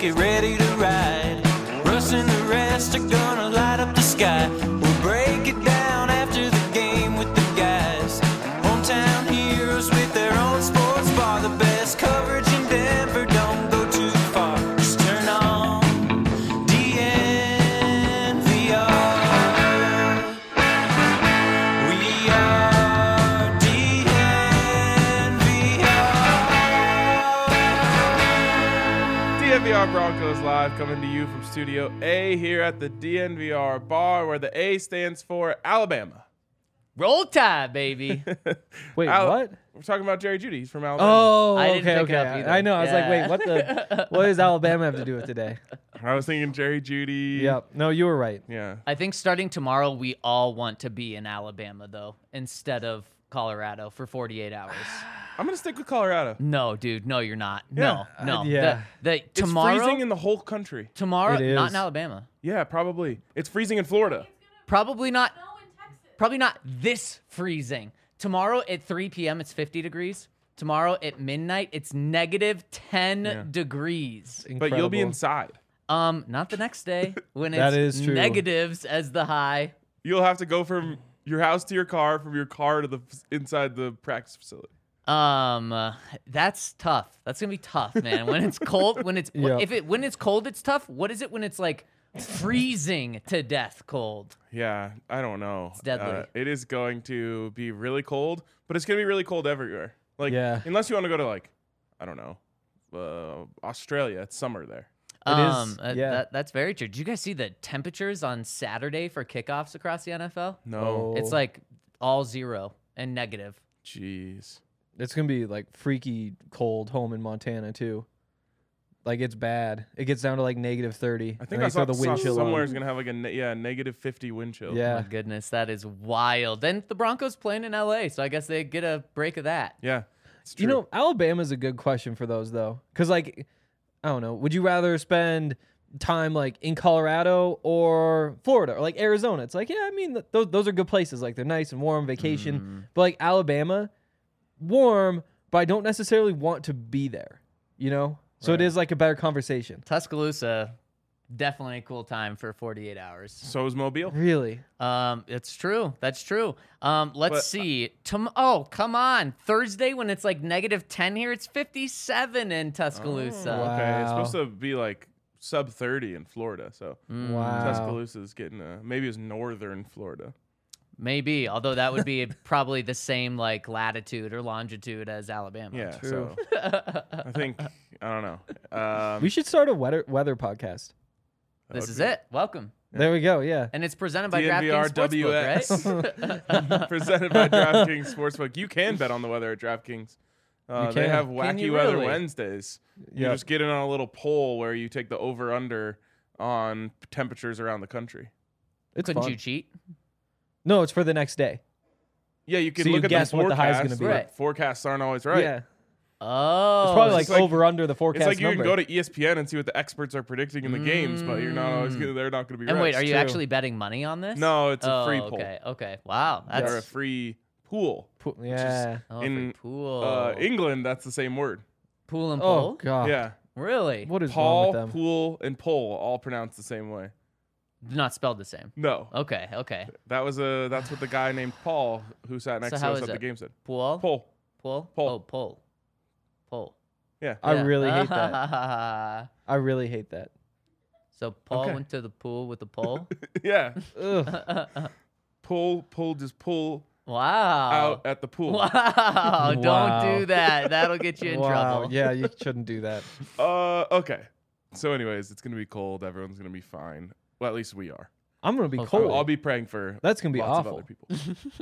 get ready to ride. Russ and the rest are gonna light up the sky. We'll break it down after the game with the guys. Hometown heroes with their own sports bar. The best coverage in Denver, don't go too far. Just turn on DNVR. We are DNVR Broncos Live, coming to you from Studio A here at the DNVR bar, where the A stands for Alabama. Roll Tide, baby. Wait, what? We're talking about Jerry Jeudy. He's from Alabama. Oh, I didn't okay, pick it okay. up either. I know. I was like, Yeah. wait, what does Alabama have to do with today? I was thinking Jerry Jeudy. Yep. No, you were right. Yeah. I think starting tomorrow, we all want to be in Alabama, though, instead of Colorado for 48 hours. I'm going to stick with Colorado. No, dude. No, you're not. Yeah. No. Yeah. It's Tomorrow, freezing in the whole country. tomorrow, It is. not in Alabama. Yeah, probably. It's freezing in Florida. Probably not. Probably not this freezing. Tomorrow at 3 p.m. it's 50 degrees. Tomorrow at midnight it's negative 10 degrees. But you'll be Incredible. inside. Not the next day when it's That is true. negatives as the high. You'll have to go from your house to your car, from your car to the inside the practice facility. That's tough. That's gonna be tough, man. When it's cold, when it's Yep. when it's cold, it's tough. What is it when it's like freezing to death cold? Yeah, I don't know. It's deadly. It is going to be really cold, but it's going to be really cold everywhere. Like, Yeah. unless you want to go to, like, I don't know, Australia. It's summer there. Yeah. That's very true. Did you guys see the temperatures on Saturday for kickoffs across the NFL? No. Oh. It's like all zero and negative. Jeez. It's gonna be like freaky cold home in Montana too. Like it's bad. It gets down to like negative 30. I think and I they saw throw the wind chill somewhere on. is going to have, like, negative 50 wind chill. Yeah. My goodness, that is wild. Then the Broncos playing in LA, so I guess they get a break of that. Yeah. It's true. You know, Alabama's a good question for those though, because like, I don't know. Would you rather spend time like in Colorado or Florida or like Arizona? It's like, yeah, I mean, those are good places. Like they're nice and warm, vacation. But like Alabama, warm, but I don't necessarily want to be there. You know, so it Right. is like a better conversation. Tuscaloosa, definitely a cool time for 48 hours. So is Mobile. Really? It's true. That's true. Let's But- see. Oh, come on. Thursday when it's like negative 10 here, it's 57 in Tuscaloosa. Oh, Okay. It's Wow. supposed to be, like, sub 30 in Florida. So Wow. Tuscaloosa is getting maybe it's northern Florida. Maybe, although that would be probably the same like latitude or longitude as Alabama. Yeah. True. So I think, I don't know. We should start a weather podcast. This is it. Welcome. There we go. Yeah. And it's presented by DNVR DraftKings Sportsbook, right? Presented by DraftKings Sportsbook. You can bet on the weather at DraftKings. You They can. have Can wacky you weather really? Wednesdays. You Yep. just get in on a little poll where you take the over/under on temperatures around the country. It's Couldn't fun. you cheat? No, it's for the next day. Yeah, you can So you look at guess the what the forecast. high's gonna be. but Right. Forecasts aren't always right. Yeah. Oh. It's probably like, it's like- over under the forecast It's like you number. can go to ESPN and see what the experts are predicting in the games, but you're not always they're not going to be And right. wait, are you true. actually betting money on this? No, it's a free Oh, poll. Okay. Wow. Or a That's free pool. Yeah. oh, in, free pool. England, that's the same word. Pool and Oh pole? god. Yeah. Really? What is wrong Paul, with them? pool, and pole all pronounced the same way. Not spelled the same. No. Okay. That's what the guy named Paul who sat next So to how us is at the it? game said. Pool? Pole. Pool? Pole. Oh, pole. Pole. Yeah. I Yeah. really hate that. I really hate that. So Paul Okay. went to the pool with the pole? Yeah. Ugh. Pull just pull Wow. out at the pool. Wow. Wow. Don't do that. That'll get you in Wow. trouble. Yeah, you shouldn't do that. Okay. So anyways, it's going to be cold. Everyone's going to be fine. Well, at least we are. I'm gonna be Okay. cold. I'll be praying for That's gonna be lots awful. of other people.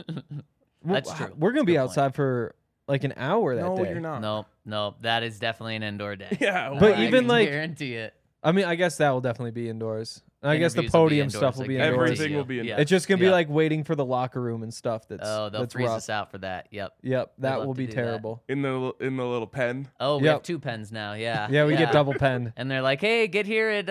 That's true. We're gonna That's a be good outside for like an hour that No, day. you're not. No. That is definitely an indoor day. Yeah. But I even, can like- guarantee it. I mean, I guess that will definitely be indoors. And I guess the Interviews will be podium indoors, stuff will I be guarantee indoors. Everything you. will be Yeah. It's just gonna be Yeah. like waiting for the locker room and stuff. That's Oh, they'll that's freeze rough. us out for that. Yep. Yep, that love will to be do that. terrible. in the little pen. Oh, we Yep. have 2 pens now. Yeah. Yeah, we get double penned. And they're like, hey, get here at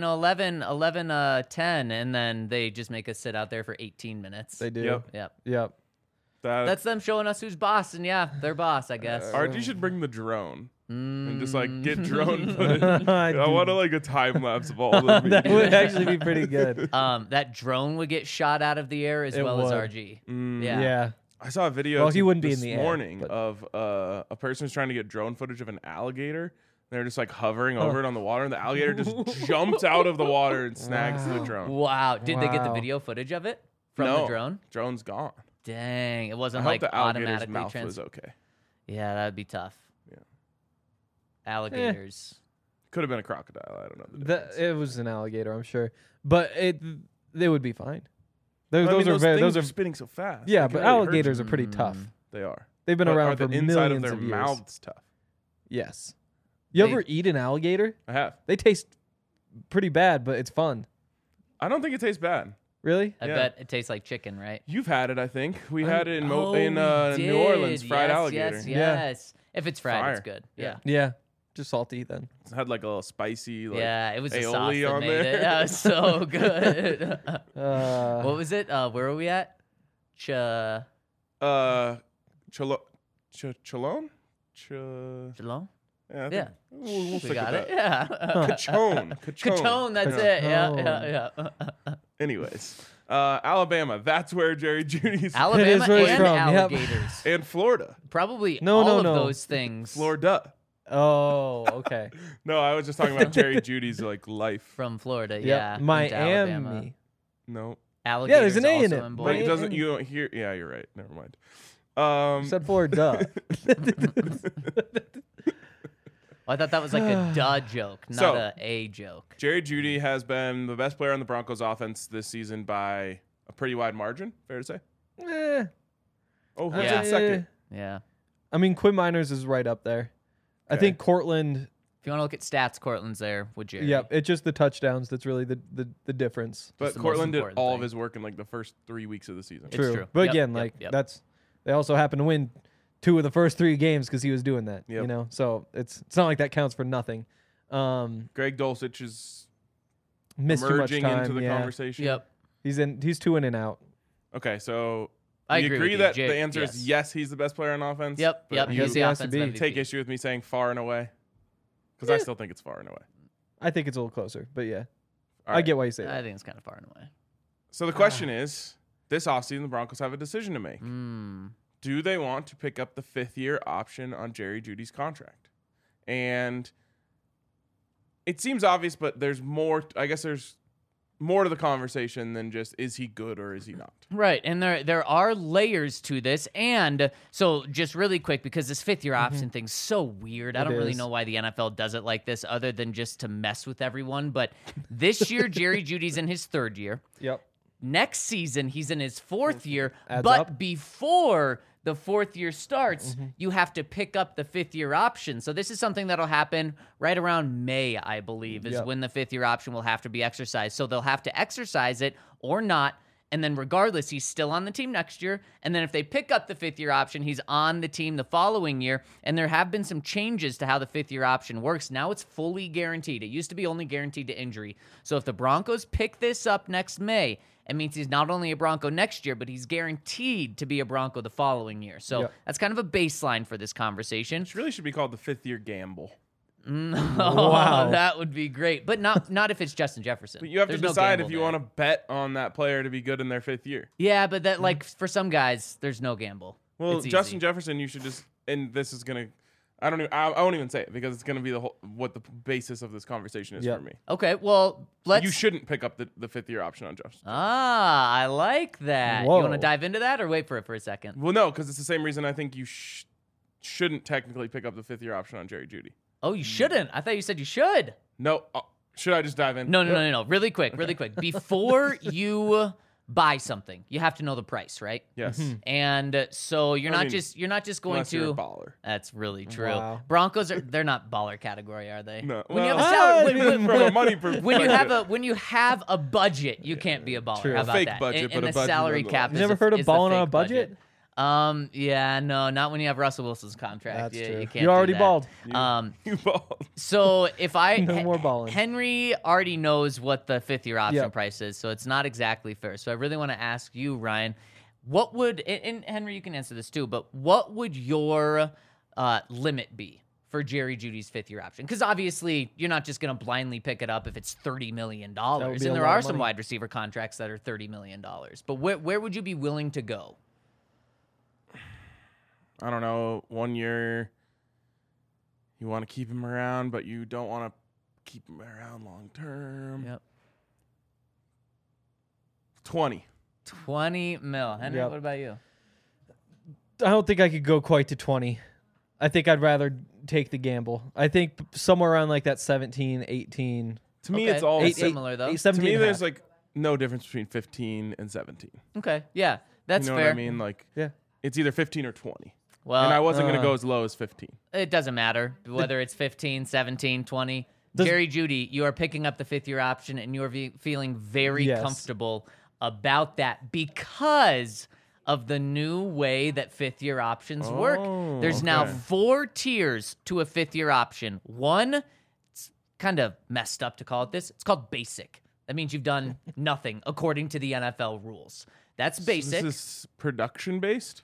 11:10, and then they just make us sit out there for 18 minutes. They do. Yep. Yep. Yep. That That's them showing us who's boss, and yeah, they're boss, I guess. RG should bring the drone. and just like get drone Mm. footage. I want like a time lapse of all of them. That would actually be pretty good. That drone would get shot out of the air as It well as would. RG. Yeah. Yeah. I saw a video Well, he wouldn't be this in the air, morning but- of a person who's trying to get drone footage of an alligator. They're just like hovering over it on the water, and the alligator just jumps out of the water and snags the drone. Wow. Did they get the Wow. video footage of it from No, the drone? drone's gone. Dang. It I wasn't hope like the alligator's automatically mouth was okay. Yeah, that'd be tough. Yeah. Alligators. Could have been a crocodile. I don't know. The That, difference. it was an alligator, I'm sure, but they would be fine. Those, I mean, those are very. things Those are spinning so fast. yeah, They but can really hurt alligators you. are pretty tough. They are. They've been But around are for the inside millions of their of years. mouths tough? Yes. You They- ever eat an alligator? I have. They taste pretty bad, but it's fun. I don't think it tastes bad. Really? I Yeah. bet it tastes like chicken, right? You've had it, I think. We had it in Oh, in we New Orleans, did. fried Yes, alligator. Yes, Yeah. yes. If it's fried, it's Fire. good. Yeah. Yeah. Yeah. Just salty then. It had like a little spicy, like Yeah, it was the sauce aioli that on made there. it. That was so good. Uh, What was it? Where were we at? Chalone? Shalom? Yeah. I think Yeah. We'll We stick got with it. that. Yeah. Cachone. Catone, that's it. Yeah, yeah. Anyways, Alabama. That's where Jerry Judy's Alabama It is where it's and from, yep. alligators. and Florida. Probably No, all no, of no. those things Florida. oh, okay. No, I was just talking about Jerry Judy's like life. from Florida. Yeah. Yeah. into Alabama. Miami. No, Alligators there's an A in also it. in but Boise. it Miami. doesn't. You don't hear. Yeah, you're right. Never mind. Except for duh. I thought that was like a duh joke, not So- a joke. Jerry Jeudy has been the best player on the Broncos offense this season by a pretty wide margin. Fair to say. Eh, Oh, who's Yeah. in second? Yeah. I mean, Quinn Miners is right up there. I Okay. think Cortland. If you want to look at stats, Cortland's there with Jerry. Yep, it's just the touchdowns that's really the difference. But the most Cortland did important all thing. of his work in like the first 3 weeks of the season. It's True. true. But Yep, again, yep, like yep. that's they also happen to win 2 of the first 3 games because he was doing that. You Yep. know, so it's not like that counts for nothing. Greg Dulcich is Missed too much emerging time. into the yeah. conversation. Yep. He's 2 in and out. Okay, so I you agree agree with you. that Jay- the answer yes. is yes, he's the best player on offense? Yep. but Yep. You He's the he has to offensive be. MVP. take issue with me saying far and away? Because I Yeah. still think it's far and away. I think it's a little closer, but yeah, All I right. get why you say I that. think it's kind of far and away. So the question is, this offseason, the Broncos have a decision to make. Mm. Do they want to pick up the 5th-year option on Jerry Jeudy's contract? And it seems obvious, but there's more. I guess there's more to the conversation than just is he good or is he not? Right, and there are layers to this, and so just really quick because this 5th-year option thing's so weird. I It don't really is. know why the NFL does it like this, other than just to mess with everyone. But this year, Jerry Jeudy's in his 3rd year. Yep. Next season, he's in his 4th year, Adds but up. before the 4th year starts, you have to pick up the 5th-year option. So this is something that'll happen right around May, I believe, is Yep. when the 5th-year option will have to be exercised. So they'll have to exercise it or not. And then regardless, he's still on the team next year. And then if they pick up the 5th-year option, he's on the team the following year. And there have been some changes to how the 5th-year option works. Now it's fully guaranteed. It used to be only guaranteed to injury. So if the Broncos pick this up next May, it means he's not only a Bronco next year, but he's guaranteed to be a Bronco the following year. So Yep. that's kind of a baseline for this conversation. Which really should be called the 5th-year gamble. Wow, that would be great, but not if it's Justin Jefferson. But you have There's to no decide gamble if you there. want to bet on that player to be good in their 5th year. Yeah, but that like for some guys, there's no gamble. Well, It's Justin easy. Jefferson, you should just, and this is gonna, I won't even say it because it's gonna be what the basis of this conversation is Yep. for me. Okay, well let's. You shouldn't pick up the 5th-year option on Justin. Ah, I like that. You Whoa. want to dive into that or wait for it for a second? Well, no, because it's the same reason I think you shouldn't technically pick up the 5th-year option on Jerry Jeudy. Oh, you shouldn't. I thought you said you should. No, should I just dive in? No. Really quick. Before you buy something, you have to know the price, right? Yes. And so you're I not mean, just going Unless you're a to. baller. That's really true. Wow. Broncos they're not baller category, are they? No. When you have a Well, salary, from a money perspective. when you have a budget, you can't be a baller. True. How A about fake that? budget, and but a the budget salary nonetheless. cap. You is never heard of is the balling on fake a budget? Yeah, no, not when you have Russell Wilson's contract. That's you, true. You can't. You already do that. balled. You balled. So if I No more balling. Henry already knows what the 5th-year option Yep. price is, so it's not exactly fair. So I really want to ask you, Ryan, and Henry, you can answer this too, but what would your limit be for Jerry Judy's 5th-year option? Because obviously you're not just going to blindly pick it up if it's $30 million. And be a there lot are of some money. wide receiver contracts that are $30 million. But where would you be willing to go? I don't know. 1 year, you want to keep him around, but you don't want to keep him around long term. Yep. 20. 20 mil. Henry, Yep. what about you? I don't think I could go quite to 20. I think I'd rather take the gamble. I think somewhere around like that 17, 18. To me, Okay. it's all. Similar, though. To 17 me, and a there's half. like no difference between 15 and 17. Okay. Yeah, that's You know fair. what I mean? Like, Yeah. it's either 15 or 20. Well, And I wasn't going to go as low as 15. it doesn't matter whether it's 15, 17, 20. Does- Jerry Jeudy, you are picking up the 5th-year option, and you are feeling very Yes. comfortable about that because of the new way that 5th-year options work. Oh, There's now okay. 4 tiers to a 5th-year option. One, it's kind of messed up to call it this. It's called basic. That means you've done nothing according to the NFL rules. That's basic. So this is production based?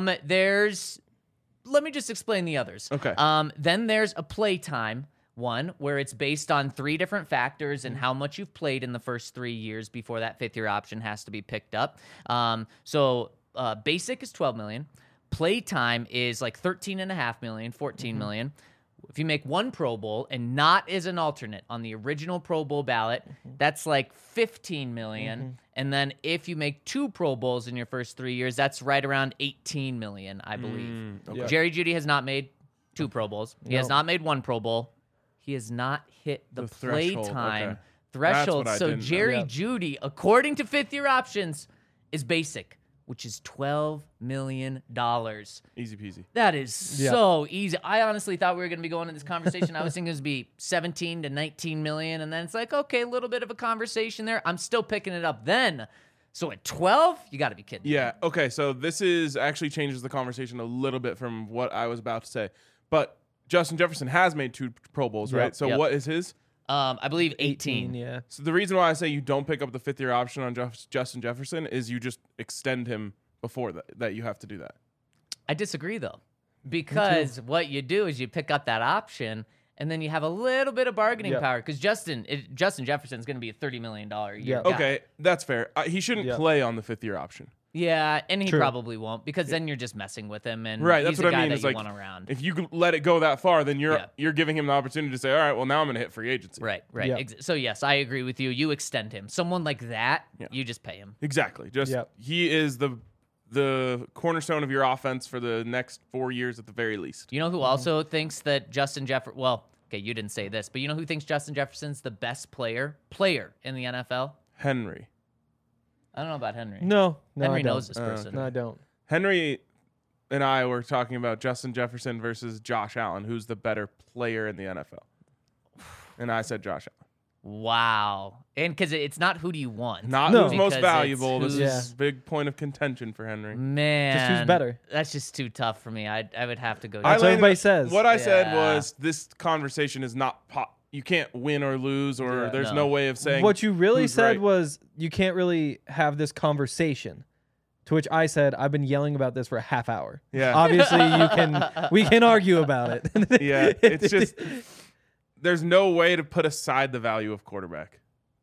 Let me just explain the others. Okay. Then there's a playtime one where it's based on 3 different factors and how much you've played in the first 3 years before that 5th-year option has to be picked up. So basic is 12 million. Playtime is like 13.5 million, 14 million. If you make 1 Pro Bowl and not as an alternate on the original Pro Bowl ballot, that's like 15 million. And then if you make 2 Pro Bowls in your first 3 years, that's right around 18 million, I believe. okay. Jerry Jeudy has not made 2 Pro Bowls. He has No. not made 1 Pro Bowl. He has not hit the, The threshold, playtime okay. threshold. That's what I So didn't know. Jerry Yep. Jeudy, according to 5th-year options, is basic, which is $12 million. Easy peasy. That is Yeah. so easy. I honestly thought we were going to be going in this conversation. I was thinking it was be 17 to 19 million. And then it's like, okay, a little bit of a conversation there. I'm still picking it up then. So at 12, you got to be kidding. Yeah. Okay. So this is actually changes the conversation a little bit from what I was about to say. But Justin Jefferson has made 2 Pro Bowls, Yep. right? So Yep. what is his? I believe 18. Yeah. So the reason why I say you don't pick up the 5th-year option on Justin Jefferson is you just extend him before that you have to do that. I disagree, though, because what you do is you pick up that option and then you have a little bit of bargaining Yep. power because Justin Jefferson's going to be a $30 million a year Yep. guy. Okay, that's fair. He shouldn't Yep. play on the 5th-year option. Yeah, and he True. probably won't because then you're just messing with him and Right, he's that's what a I guy mean. that It's you like want around. if you let it go that far, then Yeah. you're giving him the opportunity to say, all right, well now I'm going to hit free agency. Right. Yep. So yes, I agree with you. You extend him. Someone like that, Yeah. you just pay him. Exactly. Just Yep. he is the cornerstone of your offense for the next 4 years at the very least. You know who also thinks that Justin Jefferson? Well, okay, you didn't say this, but you know who thinks Justin Jefferson's the best player in the NFL? Henry. I don't know about Henry. No, Henry I don't. knows this person. No, I don't. Henry and I were talking about Justin Jefferson versus Josh Allen, who's the better player in the NFL. And I said Josh Allen. Wow. And because it's not who do you want. Not No. who's most Because valuable. it's This who's- is a big point of contention for Henry. Man. Just who's better. That's just too tough for me. I would have to go. That's what everybody says. What I said Yeah. was this conversation is not you can't win or lose, or Yeah. there's No. no way of saying What you really who's said right. was you can't really have this conversation. To which I said I've been yelling about this for a half hour. Yeah. Obviously, we can argue about it. Yeah, it's just there's no way to put aside the value of quarterback.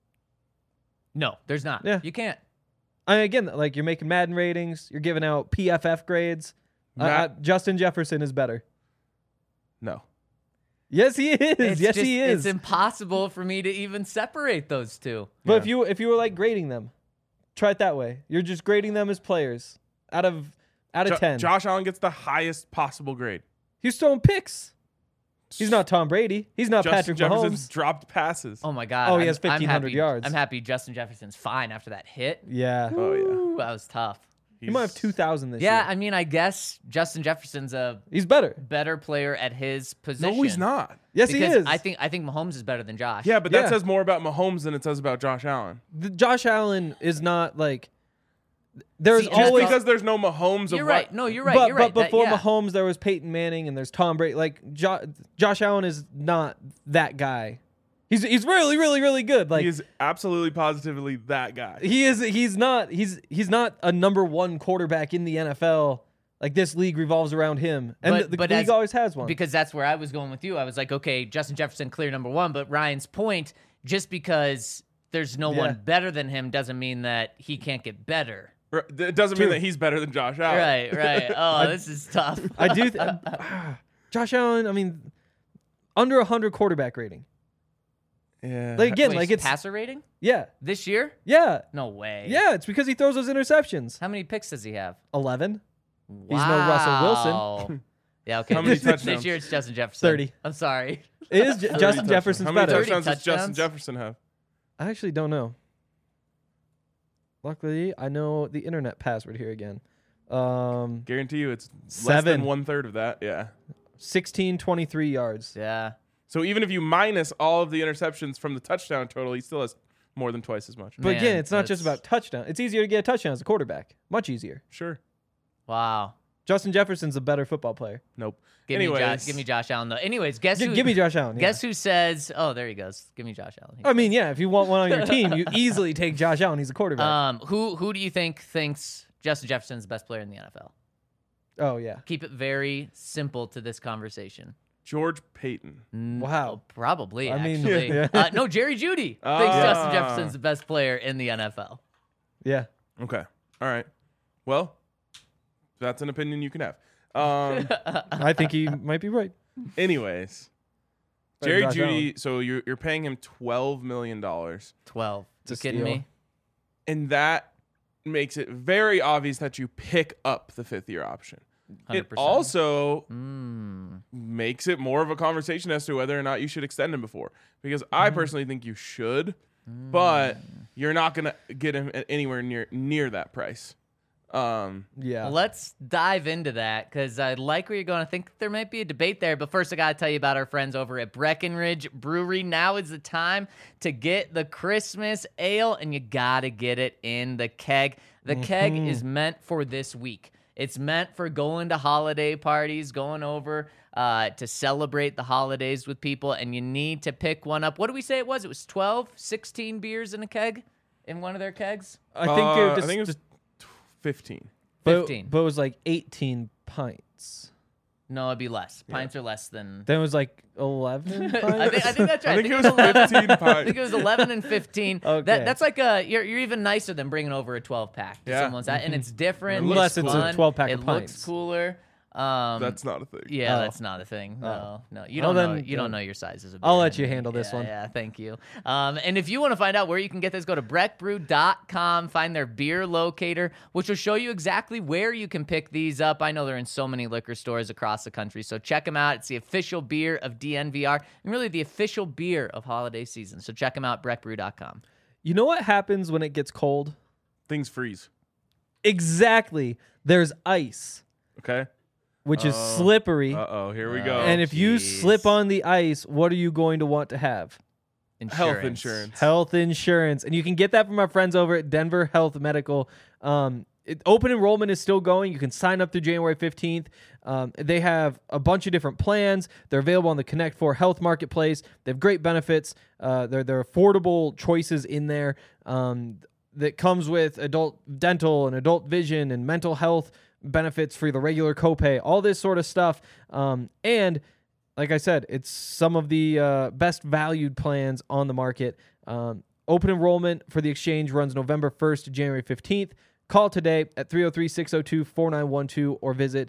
No, there's not. Yeah. You can't. Again, like you're making Madden ratings, you're giving out PFF grades. Justin Jefferson is better. No. Yes, he is. It's yes, just, he is. It's impossible for me to even separate those two. But Yeah. if you were like grading them, try it that way. You're just grading them as players out of 10. Josh Allen gets the highest possible grade. He's throwing picks. He's not Tom Brady. He's not Justin Patrick Jefferson's Mahomes. dropped passes. Oh my God. Oh, he has I'm 1,500 happy- yards. I'm happy Justin Jefferson's fine after that hit. Yeah. Oh, yeah. Ooh, that was tough. He might have He's- 2,000 this Yeah, year. I mean, I guess Justin Jefferson's a He's better. better player at his position. No, he's not. Yes, because he is. I think Mahomes is better than Josh. Yeah, but Yeah. that says more about Mahomes than it says about Josh Allen. Josh Allen is not like. There's See, Just always. because there's no Mahomes You're of right. what, No, you're right. but you're right. but before yeah. Mahomes, there was Peyton Manning and there's Tom Brady. Like Josh Allen is not that guy. He's really really really good. Like he is absolutely positively that guy. he is. He's not a number one quarterback in the NFL. Like this league revolves around him, and But- the but league as- always has one. Because that's where I was going with you. I was like, okay, Justin Jefferson clear number one, but Ryan's point, just because there's no Yeah. one better than him doesn't mean that he can't get better. It doesn't mean True. that he's better than Josh Allen. Right. Oh, this is tough. I do. Josh Allen. I mean, under 100 quarterback rating. Yeah. Like again, Wait, like it's passer rating yeah, this year? yeah, No way. yeah. It's because he throws those interceptions. How many picks does he have? 11. Wow. He's no Russell Wilson. Yeah, okay. How many This touchdowns? year it's Justin Jefferson. 30. I'm sorry. It is 30 Justin touchdowns. Jefferson's How many better. 30 touchdowns does Justin touchdowns? Jefferson have? I actually don't know. Luckily, I know the internet password here again. Guarantee you it's less 7. than 1/3 of that. Yeah. 1623 yards. Yeah. So even if you minus all of the interceptions from the touchdown total, he still has more than twice as much. But Man, again, it's not just that's- about touchdown. It's easier to get a touchdown as a quarterback. Much easier. Sure. Wow. Justin Jefferson's a better football player. Nope. Give Anyways, me Josh Allen though. Anyways, guess who? Give me Josh Allen. Yeah. Guess who says? Oh, there he goes. Give me Josh Allen. I mean, yeah, if you want one on your team, you easily take Josh Allen. He's a quarterback. Who do you think thinks Justin Jefferson's the best player in the NFL? Oh, yeah. Keep it very simple to this conversation. George Payton. Wow. Probably. I mean, actually. yeah. No, Jerry Judy thinks Ah. Justin Jefferson's the best player in the NFL. Yeah. Okay. All right. Well, that's an opinion you can have. I think he might be right. Anyways, Better Jerry Josh Judy. Allen. So you're paying him $12 million, 12. It's a You kidding steal. me? and that makes it very obvious that you pick up the 5th-year option. 100%. It also Mm. makes it more of a conversation as to whether or not you should extend him before. Because I personally think you should, but you're not going to get him at anywhere near that price. Yeah. Let's dive into that because I like where you're going. I think there might be a debate there, but first I got to tell you about our friends over at Breckenridge Brewery. Now is the time to get the Christmas ale, and you got to get it in the keg. The keg is meant for this week. It's meant for going to holiday parties, going over to celebrate the holidays with people, and you need to pick one up. What did we say it was? It was 12, 16 beers in a keg, in one of their kegs? I think you're I just, think it was 15. 15. But it was like 18 pints. No, it'd be less. Pints are less than... Then it was like 11 pints. I think that's right. I think it was 15 I pints. think it was 11 and 15. Okay. That's like you're even nicer than bringing over a 12 pack to Yeah. someone's house, and it's different. Unless it's it's a fun, 12-pack It of looks pints. cooler. That's not a thing. Yeah, Oh. that's not a thing. No, no, you Well, don't know. then, You don't yeah. know your sizes. Of I'll beer let you anyway. handle this Yeah, one. Yeah, thank you. And if you want to find out where you can get this, go to breckbrew.com, find their beer locator, which will show you exactly where you can pick these up. I know they're in so many liquor stores across the country, so check them out. It's the official beer of DNVR and really the official beer of holiday season. So check them out, breckbrew.com. You know what happens when it gets cold? Things freeze. Exactly. There's ice, Okay. which is Oh. slippery. Uh-oh. Here we go. And if you jeez. slip on the ice, what are you going to want to have? Health insurance. Health insurance. And you can get that from our friends over at Denver Health Medical. Open enrollment is still going. You can sign up through January 15th. They have a bunch of different plans. They're available on the Connect 4 Health Marketplace. They have great benefits. They're affordable choices in there that comes with adult dental and adult vision and mental health benefits for the regular copay, all this sort of stuff. And like I said, it's some of the best valued plans on the market. Open enrollment for the exchange runs November 1st to January 15th. Call today at 303-602-4912 or visit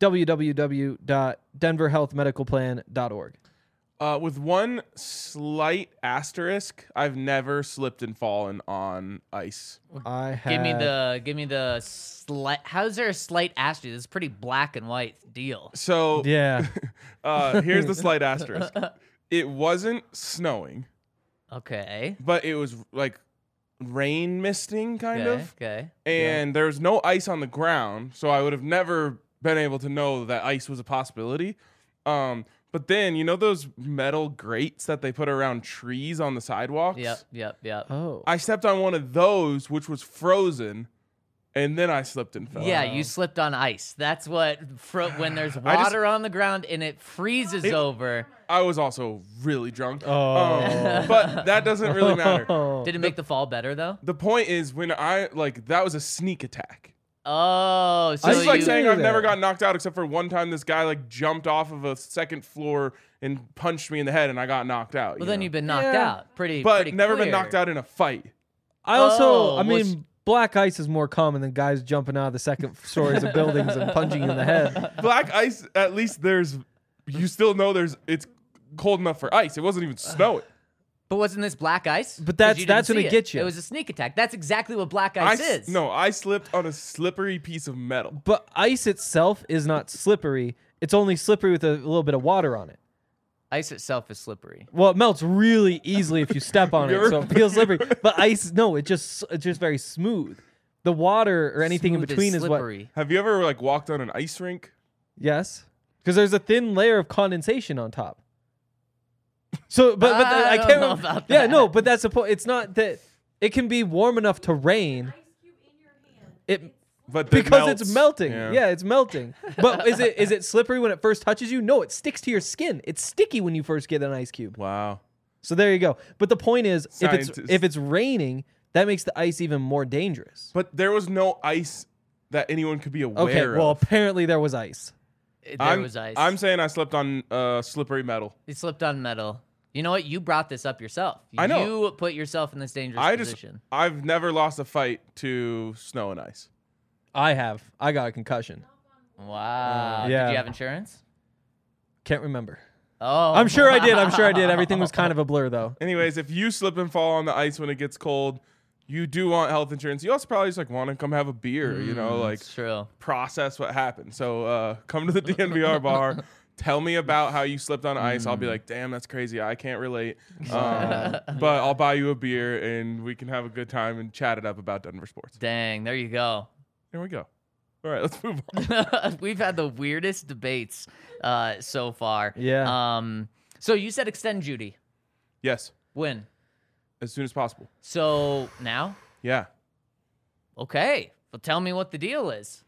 www.denverhealthmedicalplan.org. With one slight asterisk, I've never slipped and fallen on ice. I have Give me the slight. How's there a slight asterisk? This is a pretty black and white deal. So Yeah. here's the slight asterisk. It wasn't snowing, Okay. but it was like rain misting kind of. Okay. And there was no ice on the ground, so I would have never been able to know that ice was a possibility. But then, you know those metal grates that they put around trees on the sidewalks? Yep. Oh. I stepped on one of those, which was frozen, and then I slipped and fell. Yeah, you slipped on ice. That's what when there's water on the ground and it freezes over. I was also really drunk. Oh. But that doesn't really matter. Did it make the fall better though? The point is, when that was a sneak attack. Oh, so This is like you- saying I've Yeah. never got knocked out except for one time this guy like jumped off of a second floor and punched me in the head and I got knocked out. well, then you've been knocked Yeah. out. Pretty, but pretty never clear. been knocked out in a fight. I also, Oh, I mean, black ice is more common than guys jumping out of the second stories of buildings and punching you in the head. Black ice, at least you still know it's cold enough for ice. It wasn't even snowing. But wasn't this black ice? But 'Cause you that's didn't when see it gets you. It was a sneak attack. That's exactly what black ice is. No, I slipped on a slippery piece of metal. But ice itself is not slippery. It's only slippery with a little bit of water on it. Ice itself is slippery. Well, it melts really easily if you step on it, so it feels slippery. But ice, no, it's just very smooth. The water or anything Smooth in between is what. slippery. Have you ever like walked on an ice rink? Yes, because there's a thin layer of condensation on top. So, but I I don't can't know remember. about Yeah, that. no, but that's the point. It's not that it can be warm enough to rain. It But because it's melting. Yeah. Yeah, it's melting. But is it slippery when it first touches you? No, it sticks to your skin. It's sticky when you first get an ice cube. Wow. So there you go. But the point is, Scientists. if it's raining, that makes the ice even more dangerous. But there was no ice that anyone could be aware Okay, well, of. apparently there was ice. There was ice. I'm saying I slipped on slippery metal. He slipped on metal. You know what? You brought this up yourself. I know. You put yourself in this dangerous position. I've never lost a fight to snow and ice. I have. I got a concussion. Wow. Yeah. Did you have insurance? Can't remember. Oh. I'm sure I did. Everything was kind of a blur, though. Anyways, if you slip and fall on the ice when it gets cold, you do want health insurance. You also probably just like want to come have a beer, like It's true. process what happened. So come to the DNVR bar. Tell me about how you slipped on ice. I'll be like, damn, that's crazy. I can't relate. But I'll buy you a beer and we can have a good time and chat it up about Denver sports. Dang, there you go. There we go. All right, let's move on. We've had the weirdest debates so far. Yeah. So you said extend Judy. Yes, When? as soon as possible. So now? Yeah. Okay. Well, tell me what the deal is.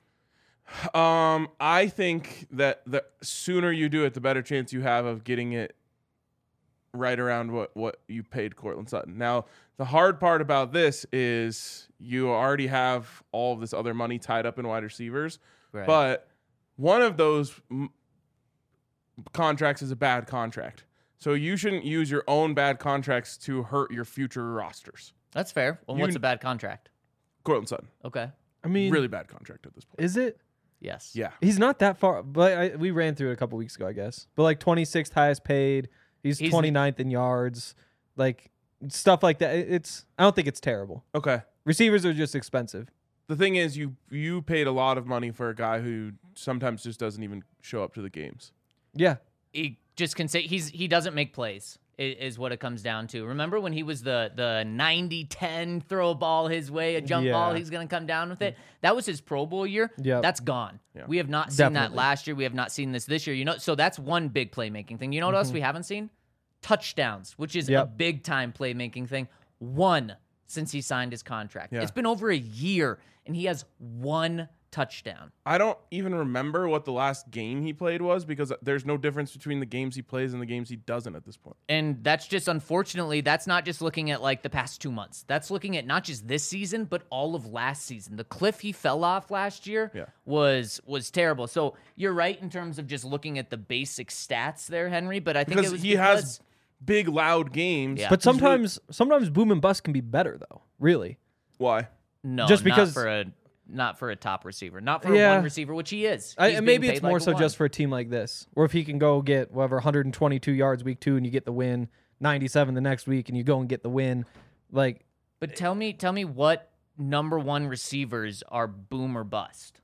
I think that the sooner you do it, the better chance you have of getting it right around what you paid Cortland Sutton. Now, the hard part about this is you already have all of this other money tied up in wide receivers, Right. but one of those contracts is a bad contract. So you shouldn't use your own bad contracts to hurt your future rosters. That's fair. Well, what's a bad contract? Cortland Sutton, Okay. I mean, really bad contract at this point. is it? Yes. Yeah. He's not that far, but we ran through it a couple weeks ago, I guess. But like 26th highest paid. He's 29th in yards. Like stuff like that. I don't think it's terrible. Okay. Receivers are just expensive. The thing is, you paid a lot of money for a guy who sometimes just doesn't even show up to the games. Yeah. He just can say he doesn't make plays is what it comes down to. Remember when he was the 90-10 throw a ball his way, a jump Yeah. ball, he's going to come down with it. That was his Pro Bowl year. Yep. That's gone. Yeah. We have not seen that Definitely. last year. We have not seen this year. So that's one big playmaking thing. You know what else we haven't seen? Touchdowns, which is a Yep. big time playmaking thing. One since he signed his contract. Yeah. It's been over a year and he has one touchdown. I don't even remember what the last game he played was because there's no difference between the games he plays and the games he doesn't at this point. And that's just, unfortunately, that's not just looking at like the past 2 months. That's looking at not just this season, but all of last season. The cliff he fell off last year Yeah. was terrible. So you're right in terms of just looking at the basic stats there, Henry. But I think Because it was he has big, loud games. Yeah. But He's really- sometimes boom and bust can be better though. Really. Why? no, just because- not for a top receiver, not for a Yeah. one receiver, which he is. He's And being maybe it's paid more like a so one. just for a team like this, or if he can go get whatever 122 yards week 2 and you get the win, 97 the next week and you go and get the win, like But tell me what number one receivers are boom or bust.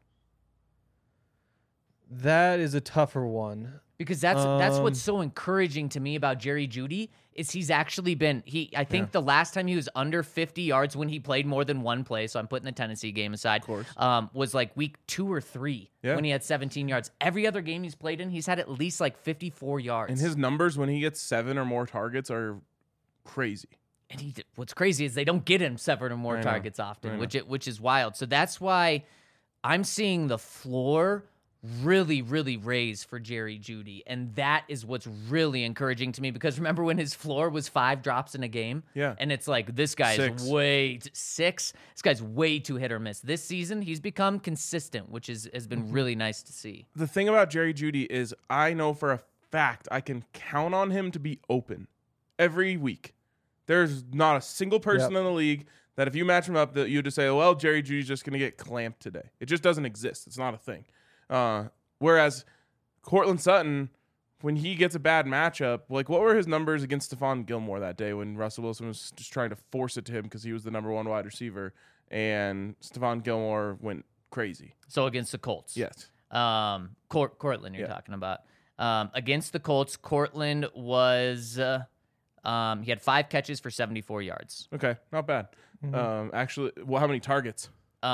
that is a tougher one. Because that's what's so encouraging to me about Jerry Jeudy is he's actually been I think the last time he was under 50 yards when he played more than one play, so I'm putting the Tennessee game aside, was like week 2 or 3 when he had 17 yards. Every other game he's played in, he's had at least like 54 yards. And his numbers when he gets 7 or more targets are crazy. And what's crazy is they don't get him 7 or more I know. targets often, I know. which is wild. So that's why I'm seeing the floor really, really raise for Jerry Jeudy. And that is what's really encouraging to me, because remember when his floor was 5 drops in a game? Yeah. And it's like, this guy's 6. This guy's way too hit or miss. This season, he's become consistent, which has been really nice to see. The thing about Jerry Jeudy is I know for a fact I can count on him to be open every week. There's not a single person in the league that if you match him up that you just say, well, Jerry Jeudy's just going to get clamped today. It just doesn't exist. It's not a thing. Whereas Cortland Sutton, when he gets a bad matchup, like what were his numbers against Stephon Gilmore that day when Russell Wilson was just trying to force it to him because he was the number 1 wide receiver and Stephon Gilmore went crazy? So against the Colts. Yes. Cortland you're talking about. Against the Colts, Cortland was he had 5 catches for 74 yards. Okay, not bad. Actually, well, how many targets?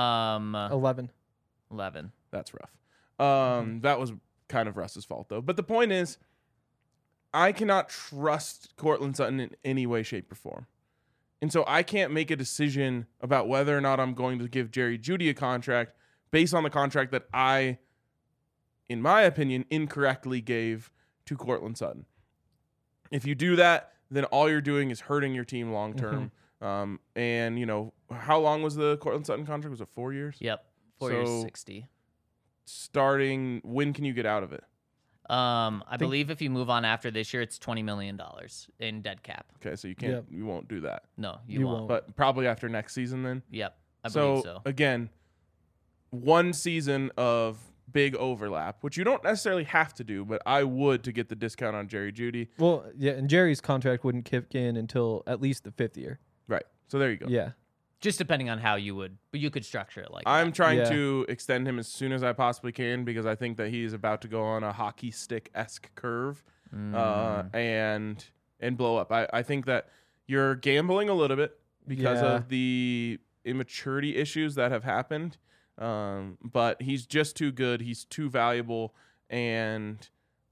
11. 11. That's rough. That was kind of Russ's fault, though. But the point is, I cannot trust Cortland Sutton in any way, shape, or form. And so I can't make a decision about whether or not I'm going to give Jerry Jeudy a contract based on the contract that I, in my opinion, incorrectly gave to Cortland Sutton. If you do that, then all you're doing is hurting your team long term. And, you know, how long was the Cortland Sutton contract? Was it 4 years? Yep. 4 years, 60. Starting, when can you get out of it? I believe if you move on after this year, it's $20 million in dead cap. Okay, so you can't, you won't do that. No, you won't. But probably after next season then? Yep, I believe so. Again, 1 season of big overlap, which you don't necessarily have to do, but I would to get the discount on Jerry Jeudy. Well, yeah, and Jerry's contract wouldn't kick in until at least the 5th year. Right. So there you go. Yeah. Just depending on how you would, but you could structure it like I'm that. trying to extend him as soon as I possibly can because I think that he is about to go on a hockey stick-esque curve and blow up. I think that you're gambling a little bit because of the immaturity issues that have happened. But he's just too good. He's too valuable. And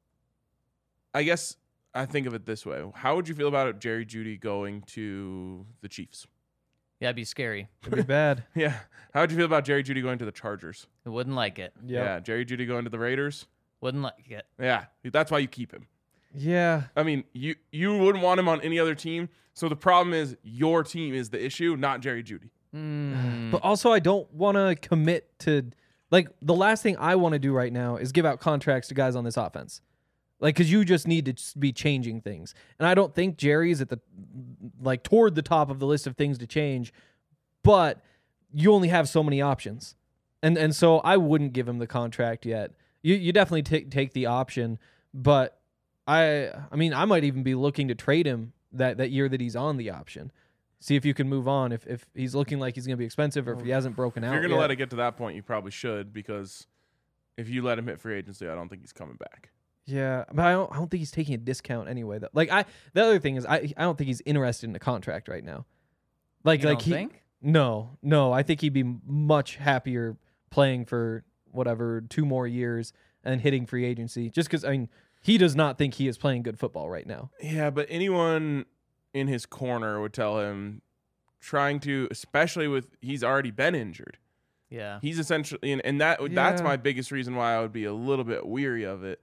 I guess I think of it this way. How would you feel about Jerry Jeudy going to the Chiefs? Yeah, it'd be scary. It'd be bad. Yeah. How would you feel about Jerry Jeudy going to the Chargers? I wouldn't like it. Yeah. Jerry Jeudy going to the Raiders? Wouldn't like it. Yeah. That's why you keep him. Yeah. I mean, you wouldn't want him on any other team. So the problem is your team is the issue, not Jerry Jeudy. But also, I don't want to commit to, like, the last thing I want to do right now is give out contracts to guys on this offense. Like, because you just need to be changing things. And I don't think Jerry's at the, like, toward the top of the list of things to change, but you only have so many options. And so I wouldn't give him the contract yet. You definitely take the option, but I mean, I might even be looking to trade him that year that he's on the option. See if you can move on if he's looking like he's going to be expensive or if he hasn't broken out. If you're going to yet. let it get to that point, you probably should, because if you let him hit free agency, I don't think he's coming back. Yeah, but I don't think he's taking a discount anyway. Though. Like the other thing is I don't think he's interested in a contract right now. You don't think? No. I think he'd be much happier playing for whatever 2 more years and hitting free agency. Just because I mean he does not think he is playing good football right now. Yeah, but anyone in his corner would tell him trying to, especially with he's already been injured. Yeah, He's essentially, and that's my biggest reason why I would be a little bit weary of it.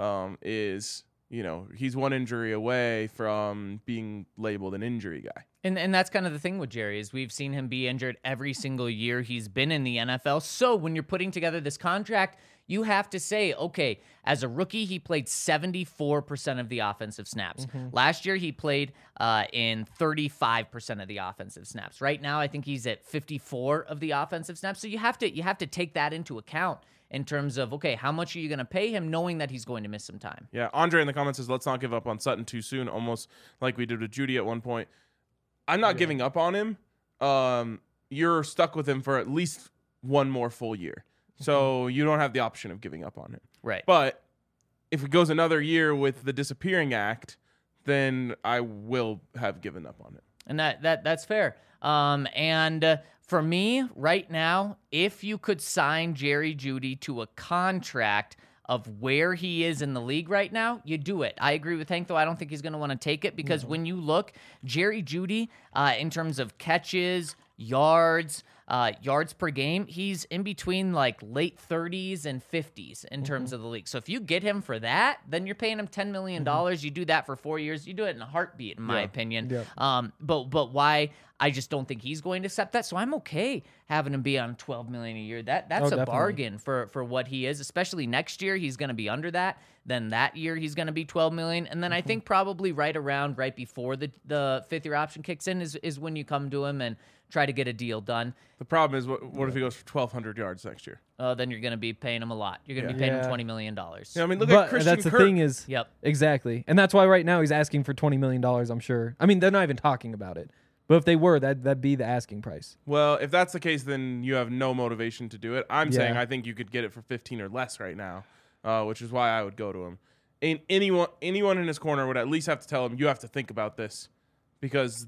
Is, you know, he's 1 injury away from being labeled an injury guy. And that's kind of the thing with Jerry is we've seen him be injured every single year he's been in the NFL. So when you're putting together this contract, you have to say, okay, as a rookie, he played 74% of the offensive snaps. Last year, he played in 35% of the offensive snaps. Right now, I think he's at 54 of the offensive snaps. So you have to take that into account in terms of, okay, how much are you going to pay him knowing that he's going to miss some time? Yeah, Andre in the comments says, let's not give up on Sutton too soon, almost like we did with Jeudy at one point. I'm not giving up on him. You're stuck with him for at least 1 more full year. So you don't have the option of giving up on him. Right. But if it goes another year with the disappearing act, then I will have given up on it. And that's fair. And for me, right now, if you could sign Jerry Jeudy to a contract of where he is in the league right now, you do it. I agree with Hank, though. I don't think he's going to want to take it because when you look, Jerry Jeudy, in terms of catches, yards, yards per game, he's in between like late 30s and 50s in terms of the league. So if you get him for that, then you're paying him $10 million. You do that for 4 years. You do it in a heartbeat, in my opinion. Yeah. But why? I just don't think he's going to accept that. So I'm okay having him be on $12 million a year. That's a definitely. bargain for what he is, especially next year. He's going to be under that. Then that year he's going to be $12 million. And then I think probably right before the fifth year option kicks in is when you come to him and try to get a deal done. The problem is, what if he goes for 1,200 yards next year? Then you're going to be paying him a lot. You're going to be paying him $20 million. Yeah, I mean, look But at Christian that's the Kirk. thing is, Yep. exactly, and that's why right now he's asking for $20 million. I'm sure. I mean, they're not even talking about it. But if they were, that'd be the asking price. Well, if that's the case, then you have no motivation to do it. I'm Yeah. saying I think you could get it for 15 or less right now, which is why I would go to him. And anyone in his corner would at least have to tell him, you have to think about this, because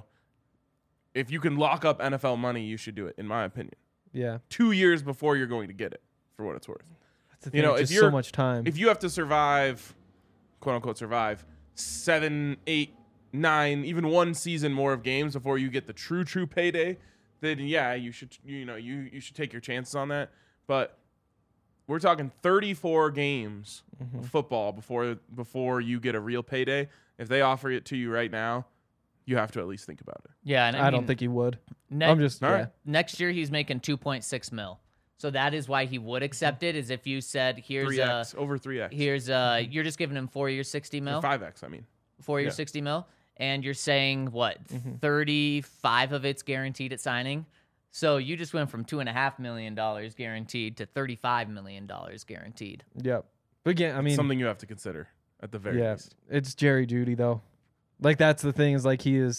if you can lock up NFL money, you should do it, in my opinion. Yeah, 2 years before you're going to get it, for what it's worth. that's the thing. If Just you're so much time. If you have to survive, quote unquote, survive 7, 8, 9, even one season more of games before you get the true payday, then yeah, you should you should take your chances on that. But we're talking 34 games of football before you get a real payday. If they offer it to you right now, you have to at least think about it. Yeah, and I don't think he would. Ne- I'm just All right. next year he's making 2.6 mil. So that is why he would accept it. Is if you said here's 3x, over 3x. you're just giving him 4 years 60 mil, Or 5x, I mean. 4 years yeah. 60 mil, and you're saying what 35 of it's guaranteed at signing. So you just went from $2.5 million guaranteed to $35 million guaranteed. Yep. But again, I mean, Something you have to consider at the very least. it's Jerry Jeudy though. Like that's the thing is like he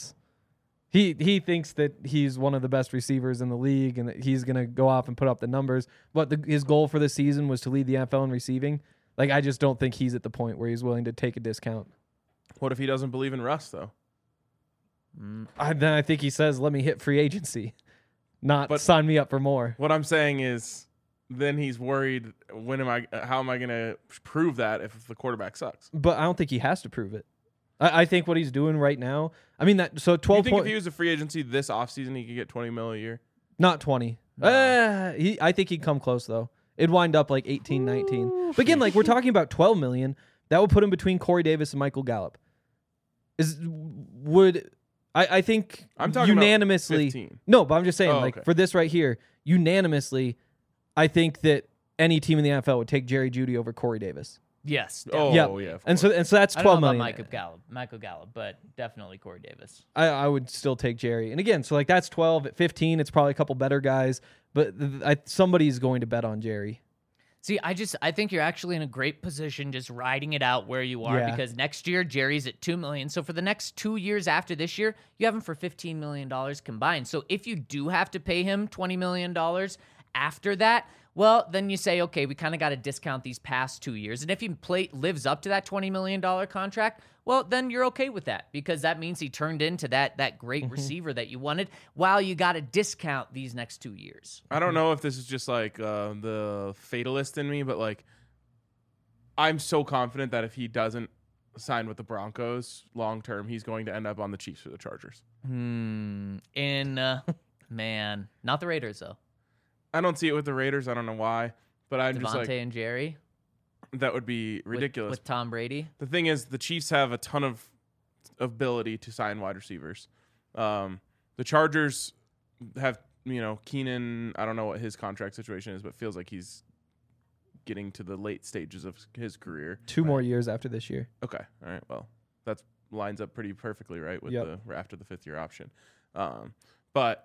thinks that he's one of the best receivers in the league and that he's gonna go off and put up the numbers. But his goal for this season was to lead the NFL in receiving. Like I just don't think he's at the point where he's willing to take a discount. What if he doesn't believe in Russ, though? Then I think he says, "Let me hit free agency, not But- sign me up for more." What I'm saying is, then he's worried. How am I going to prove that if the quarterback sucks? But I don't think he has to prove it. I think what he's doing right now. I mean that. So You 12 think if point, he was a free agency this offseason, he could get $20 million a year? not 20. I think he'd come close though. It'd wind up like 18, 19. But again, like we're talking about 12 million. That would put him between Corey Davis and Michael Gallup. I think I'm talking about unanimously. 15. No, but I'm just saying, Oh, like okay. for this right here, unanimously, I think that any team in the NFL would take Jerry Jeudy over Corey Davis. Yes. Oh, definitely. yeah. Of And course. so that's I don't 12 know about million. Michael Gallup, but definitely Corey Davis. I would still take Jerry. And again, so like that's 12. At 15, it's probably a couple better guys, but somebody's going to bet on Jerry. See, I think you're actually in a great position just riding it out where you are Yeah. because next year Jerry's at $2 million. So for the next 2 years after this year, you have him for $15 million combined. So if you do have to pay him $20 million after that, well, then you say, okay, we kind of got to discount these past 2 years. And if he lives up to that $20 million contract, well, then you're okay with that because that means he turned into that great receiver that you wanted while you got to discount these next 2 years. I don't know if this is just like the fatalist in me, but like I'm so confident that if he doesn't sign with the Broncos long term, he's going to end up on the Chiefs or the Chargers. Man, not the Raiders though. I don't see it with the Raiders. I don't know why, but I'm just Devontae like, and Jerry that would be ridiculous. with Tom Brady. The thing is, the Chiefs have a ton of ability to sign wide receivers. The Chargers have, Keenan. I don't know what his contract situation is, but feels like he's getting to the late stages of his career. 2 more years after this year. Okay, all right. Well, that lines up pretty perfectly, right, with Yep. the after the 5th year option. But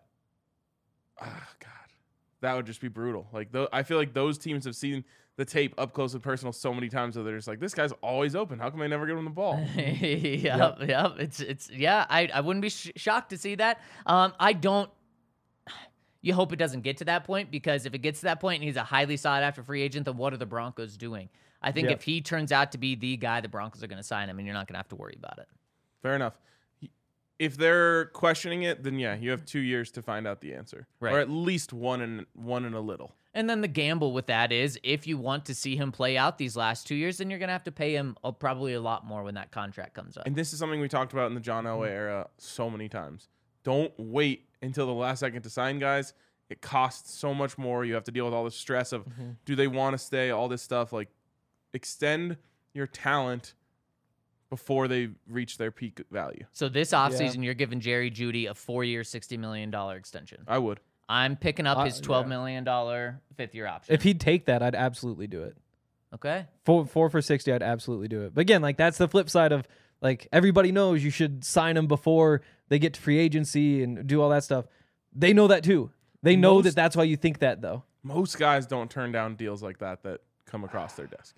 God, that would just be brutal. Like, I feel like those teams have seen the tape up close and personal so many times that they're just like, this guy's always open. How come I never give him the ball? Yep. It's yeah. I wouldn't be shocked to see that. I don't. You hope it doesn't get to that point because if it gets to that point and he's a highly sought after free agent, then what are the Broncos doing? I think Yep. if he turns out to be the guy, the Broncos are going to sign him, and you're not going to have to worry about it. Fair enough. If they're questioning it, then yeah, you have 2 years to find out the answer, Right. or at least one and a little. And then the gamble with that is if you want to see him play out these last 2 years, then you're going to have to pay him probably a lot more when that contract comes up. And this is something we talked about in the John Elway era so many times. Don't wait until the last second to sign guys. it costs so much more. You have to deal with all the stress of do they want to stay, all this stuff. Like, extend your talent before they reach their peak value. So this offseason, you're giving Jerry Jeudy a 4-year, $60 million extension. I would. I'm picking up his $12 million fifth-year option. If he'd take that, I'd absolutely do it. Okay. Four for 60, I'd absolutely do it. But again, like that's the flip side of like everybody knows you should sign them before they get to free agency and do all that stuff. They know that too. They know that that's why you think that though. Most guys don't turn down deals like that come across their desk.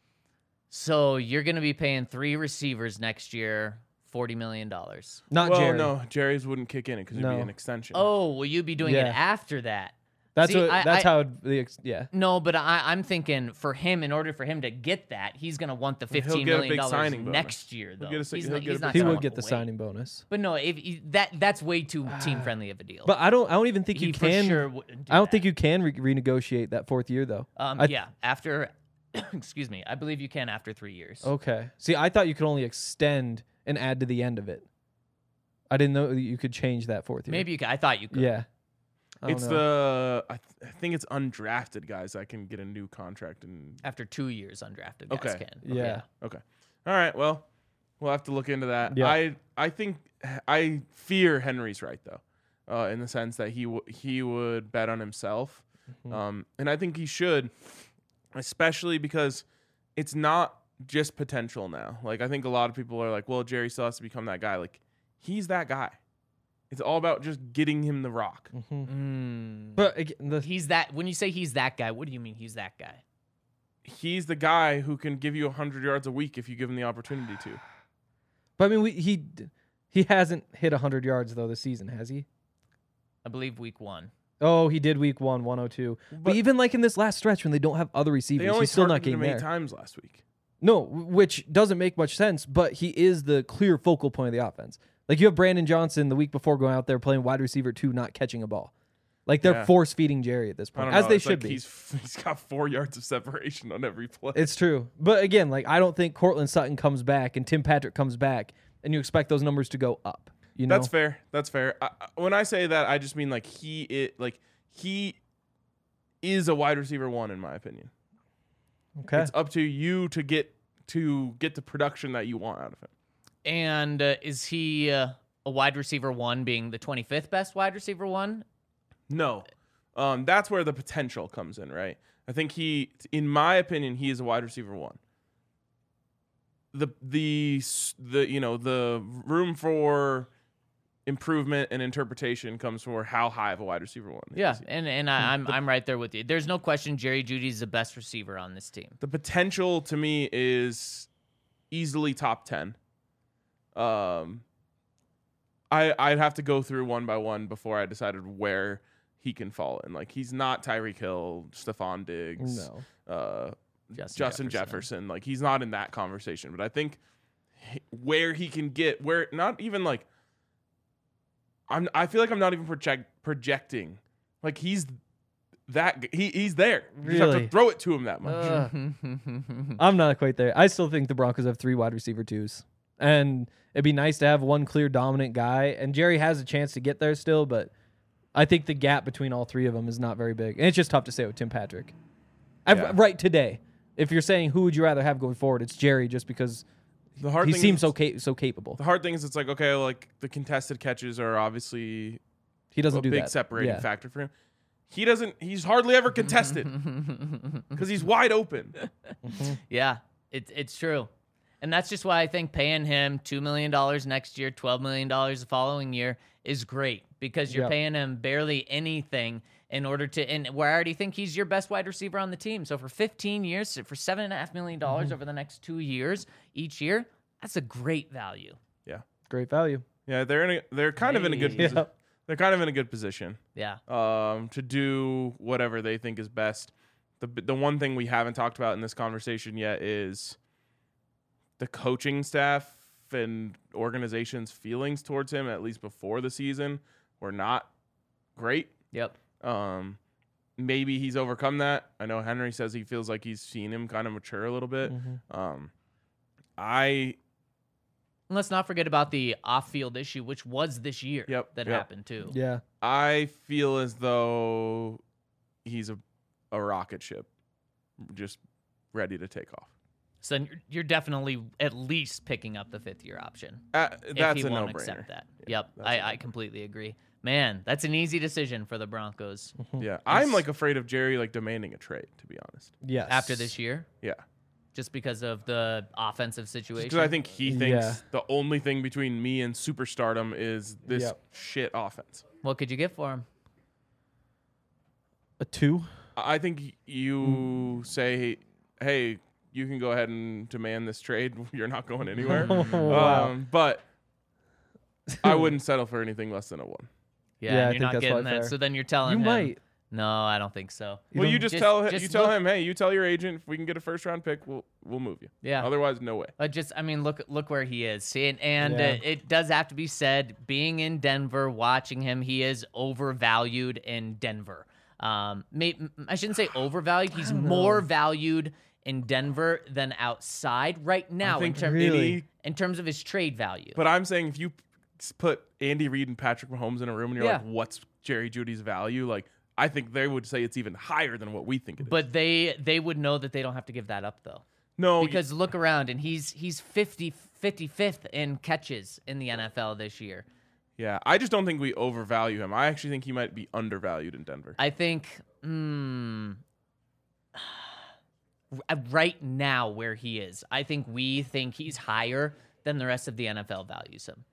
So you're going to be paying 3 receivers next year, $40 million. Not well, Jerry. no, Jerry's wouldn't kick in it because it'd be an extension. Oh, will you be doing it Yeah. after that? That's See, how yeah. No, but I'm thinking for him, in order for him to get that, he's going to want the He'll $15 get a million big signing bonus. next year, though. He'll get a He's big not He gonna would walk get the away. signing bonus. But no, that's way too team-friendly of a deal. But I don't even think he you for can. sure wouldn't do I don't that. think you can renegotiate that 4th year though. Yeah, after, excuse me, I believe you can after 3 years. Okay. See, I thought you could only extend and add to the end of it. I didn't know that you could change that 4th year. Maybe you could. I thought you could. Yeah. I don't It's know. I think it's undrafted guys that can get a new contract. And After 2 years, undrafted guys Okay. can. Yeah. okay, all right. Well, we'll have to look into that. Yeah. I think I fear Henry's right though, in the sense that he would bet on himself, and I think he should, especially because it's not just potential now. Like I think a lot of people are like, well, Jerry still has to become that guy. Like he's that guy. It's all about just getting him the rock. But again, He's that. When you say he's that guy, what do you mean he's that guy? He's the guy who can give you 100 yards a week if you give him the opportunity to. but I mean, he hasn't hit 100 yards though this season, has he? I believe week 1. Oh, he did week 1, 102. But even like in this last stretch when they don't have other They receivers, only he's still not targeted getting him 8 there. times last week. No, which doesn't make much sense, but he is the clear focal point of the offense. Like you have Brandon Johnson the week before going out there playing wide receiver 2, not catching a ball. Like they're Yeah. force feeding Jerry at this I point, don't as know. they It's should like be. He's got 4 yards of separation on every play. It's true. But again, like I don't think Cortland Sutton comes back and Tim Patrick comes back and you expect those numbers to go up. You know? That's fair. That's fair. When I say that, I just mean like he is a wide receiver 1 in my opinion. Okay. It's up to you to get the production that you want out of him. And is he a wide receiver 1 being the 25th best wide receiver 1? No, that's where the potential comes in, right? I think in my opinion, he is a wide receiver 1. The room for improvement and interpretation comes for how high of a wide receiver 1. Yeah, is he. and I'm right there with you. There's no question Jerry Jeudy's the best receiver on this team. The potential to me is easily top 10. I'd have to go through one by one before I decided where he can fall in. Like he's not Tyreek Hill, Stephon Diggs, Justin Jefferson. Like he's not in that conversation. But I think where he can get, where not even like I feel like I'm not even projecting. Like he's he's there. You just have to Really? throw it to him that much. I'm not quite there. I still think the Broncos have 3 wide receiver 2s. And it'd be nice to have one clear dominant guy. And Jerry has a chance to get there still, but I think the gap between all 3 of them is not very big. And it's just tough to say with Tim Patrick. Yeah. Right today. If you're saying who would you rather have going forward, it's Jerry just because The hard he thing seems is, so capable. The hard thing is it's like, okay, like the contested catches are obviously He doesn't a do big that. separating Yeah. factor for him. He's hardly ever contested because he's wide open. Yeah, it's true. And that's just why I think paying him $2 million next year, $12 million the following year is great because you're Yep. paying him barely anything in order to, and where I already think he's your best wide receiver on the team. So for 15 years, for $7.5 million over the next 2 years each year, that's a great value. Yeah. Great value. Yeah, they're kind of in a good Hey. position. Yeah. They're kind of in a good position Yeah. to do whatever they think is best. The one thing we haven't talked about in this conversation yet is the coaching staff and organization's feelings towards him, at least before the season, were not great. Yep. Maybe he's overcome that. I know Henry says he feels like he's seen him kind of mature a little bit. And let's not forget about the off-field issue, which was this year that happened too. Yeah. I feel as though he's a rocket ship, just ready to take off. So then you're definitely at least picking up the 5th-year option. That's if he a won't no-brainer. accept that. Yeah, Yep, I completely agree. Man, that's an easy decision for the Broncos Yeah, I'm like afraid of Jerry like demanding a trade, to be honest. Yes. after this year, Yeah, just because of the offensive situation. because I think he thinks Yeah. the only thing between me and superstardom is this Yep. shit offense. What could you get for him? A 2. I think you say, hey, you can go ahead and demand this trade. You're not going anywhere. Wow. But I wouldn't settle for anything less than a 1. Yeah, Yeah, I and think you're not that's getting probably that. fair. So then you're telling You him. might. No, I don't think so. Well, you don't- just tell just you tell look- him, hey, you tell your agent if we can get a first round pick, we'll move you. Yeah. Otherwise, no way. But just, I mean, look where he is. See, and Yeah. it does have to be said, being in Denver, watching him, he is overvalued in Denver. I shouldn't say overvalued. He's more valued in Denver than outside right now I think Really? in terms of his trade value. But I'm saying if you put Andy Reid and Patrick Mahomes in a room and you're Yeah. like, what's Jerry Jeudy's value? Like, I think they would say it's even higher than what we think it is. But they would know that they don't have to give that up though. no, Because look around, and he's 55th in catches in the NFL this year. yeah, I just don't think we overvalue him. I actually think he might be undervalued in Denver. I think right now where he is, I think we think he's higher than the rest of the NFL values him.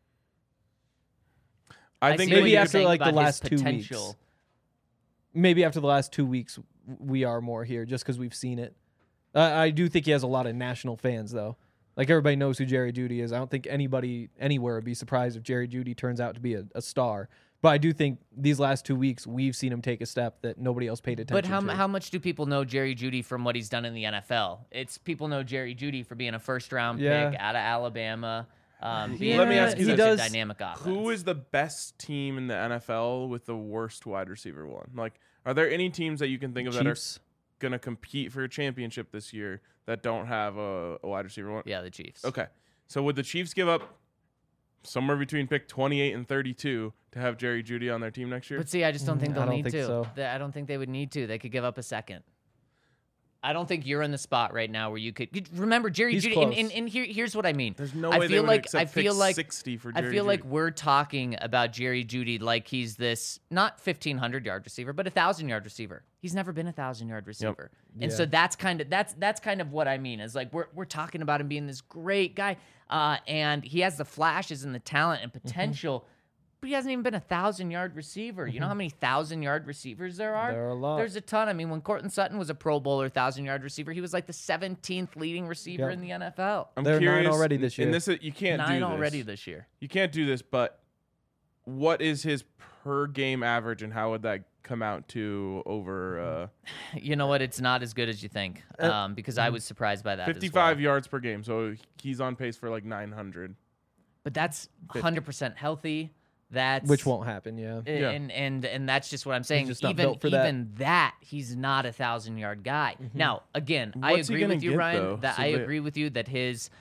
I think see what maybe you're after saying like the about his last 2 weeks. potential. Maybe after the last 2 weeks, we are more here just because we've seen it. I do think he has a lot of national fans, though. Like, everybody knows who Jerry Jeudy is. I don't think anybody anywhere would be surprised if Jerry Jeudy turns out to be a star. But I do think these last 2 weeks, we've seen him take a step that nobody else paid attention But to. how much do people know Jerry Jeudy from what he's done in the NFL? It's people know Jerry Jeudy for being a first-round Yeah. pick out of Alabama. Being Let me ask you such this. a dynamic offense. Who is the best team in the NFL with the worst wide receiver one? Like, are there any teams that you can think of Chiefs? that are going to compete for a championship this year that don't have a wide receiver one? Yeah, the Chiefs. Okay. So would the Chiefs give up somewhere between pick 28 and 32 to have Jerry Jeudy on their team next year? But see, I just don't think I they'll don't need think to. so. I don't think they would need to. They could give up a second. I don't think you're in the spot right now where you could remember Jerry He's Jeudy. close. And here's what I mean. There's no I way they feel would like accept I feel pick like 60 for I Jerry feel like Jeudy. we're talking about Jerry Jeudy like he's this not 1,500-yard receiver, but 1,000-yard receiver. He's never been a 1,000-yard receiver, and Yeah. so that's kind of what I mean. Is like we're talking about him being this great guy, and he has the flashes and the talent and potential. But he hasn't even been a 1,000-yard receiver. You know how many 1,000-yard receivers there are? There are a lot. There's a ton. I mean, when Courtland Sutton was a Pro Bowler 1,000-yard receiver, he was like the 17th leading receiver Yep. in the NFL. I'm There are 9 curious, already this year. And this you can't do 9 this. already this year. You can't do this, but what is his per game average and how would that come out to over You know what? It's not as good as you think, because I was surprised by that. 55 as well. yards per game? So he's on pace for like 900. But that's 100% healthy. That's Which won't happen, yeah. Yeah. And that's just what I'm saying. just not Even built for that. even that, he's not a 1,000-yard guy. Now, again, I What's he agree gonna with you, get, Ryan. though? That So I they- agree with you that his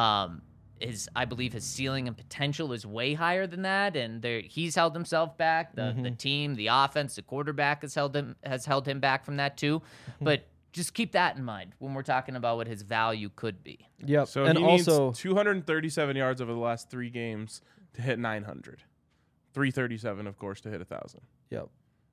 I believe his ceiling and potential is way higher than that, and he's held himself back. The team, the offense, the quarterback has held him back from that too. But just keep that in mind when we're talking about what his value could be. Yep. So and he also, needs 237 yards over the last 3 games to hit 900. 337, of course, to hit 1,000. yep.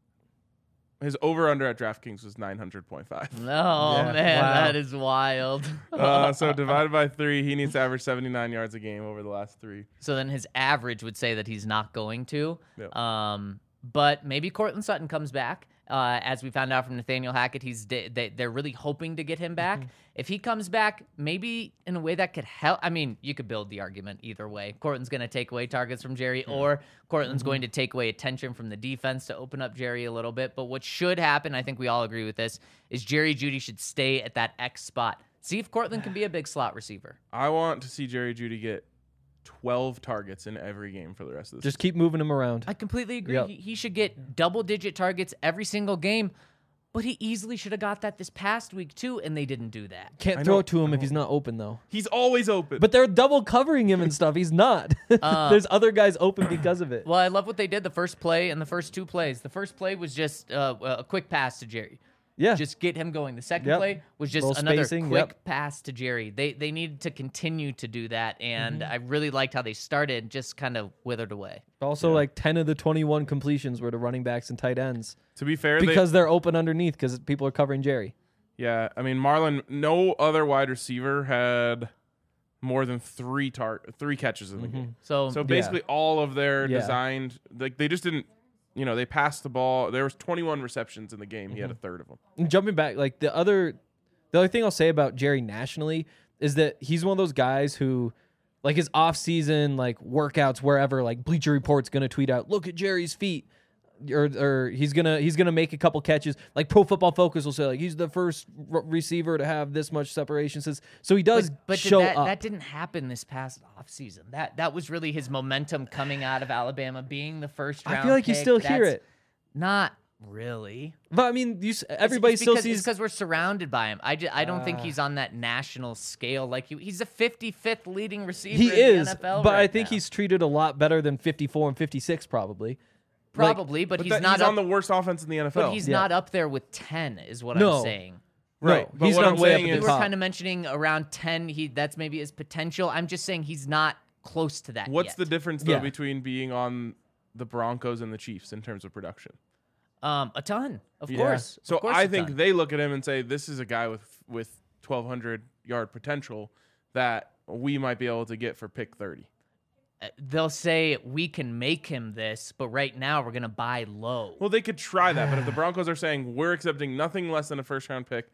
His over/under at DraftKings was 900.5. Oh Yeah. man, Wow. that is wild. So divided by 3, he needs to average 79 yards a game over the last 3. So then his average would say that he's not going to. Yep. But maybe Courtland Sutton comes back. As we found out from Nathaniel Hackett, they're really hoping to get him back. If he comes back, maybe in a way that could help. I mean, you could build the argument either way. Courtland's going to take away targets from Jerry, or Courtland's going to take away attention from the defense to open up Jerry a little bit. But what should happen, I think we all agree with this, is Jerry Jeudy should stay at that X spot. See if Courtland can be a big slot receiver. I want to see Jerry Jeudy get 12 targets in every game for the rest of the Just keep moving him around. I completely agree. Yep. He should get double-digit targets every single game. But he easily should have got that this past week too, and they didn't do that. Can't I throw know- it to him if he's not open though. He's always open. But they're double covering him and stuff. He's not. There's other guys open because of it. Well, I love what they did the first play and the first two plays. The first play was just a quick pass to Jerry. Yeah. Just get him going. The second Yep. play was just Little another spacing, quick yep. pass to Jerry. They needed to continue to do that, and Mm-hmm. I really liked how they started, just kind of withered away. Also, like 10 of the 21 completions were to running backs and tight ends to be fair, because they're open underneath because people are covering Jerry. yeah, I mean Marlon. No other wide receiver had more than three catches in the game. So, So basically, all of their Yeah. designed, like they just didn't. They passed the ball. There was 21 receptions in the game. He had a third of them. And jumping back, like the other thing I'll say about Jerry nationally is that he's one of those guys who, like his off season, like workouts wherever, like Bleacher Report's gonna tweet out, "Look at Jerry's feet," or he's gonna make a couple catches. Like Pro Football Focus will say, like he's the first receiver to have this much separation. So he does but show that, up. that didn't happen this past offseason. That was really his momentum coming out of Alabama, being the first round I feel like you pick. still hear That's it, Not really. but I mean, everybody It's still because, sees. because we're surrounded by him. I don't think he's on that national scale like he's a 55th leading receiver. He in is, the NFL but I right think now. he's treated a lot better than 54 and 56 probably. probably, but he's not he's up, on the worst offense in the NFL. but he's Yeah. not up there with 10 is what No. I'm saying. Right, No, but he's what not I'm way up saying at We the is- were top. kind of mentioning around 10. That's maybe his potential. I'm just saying he's not close to that What's yet. the difference though Yeah. between being on the Broncos and the Chiefs in terms of production? A ton, of Yeah. course. So Of course I a think ton. they look at him and say, "This is a guy with 1,200 yard potential that we might be able to get for pick 30." They'll say we can make him this, but right now we're gonna buy low. Well, they could try that, but if the Broncos are saying we're accepting nothing less than a first round pick,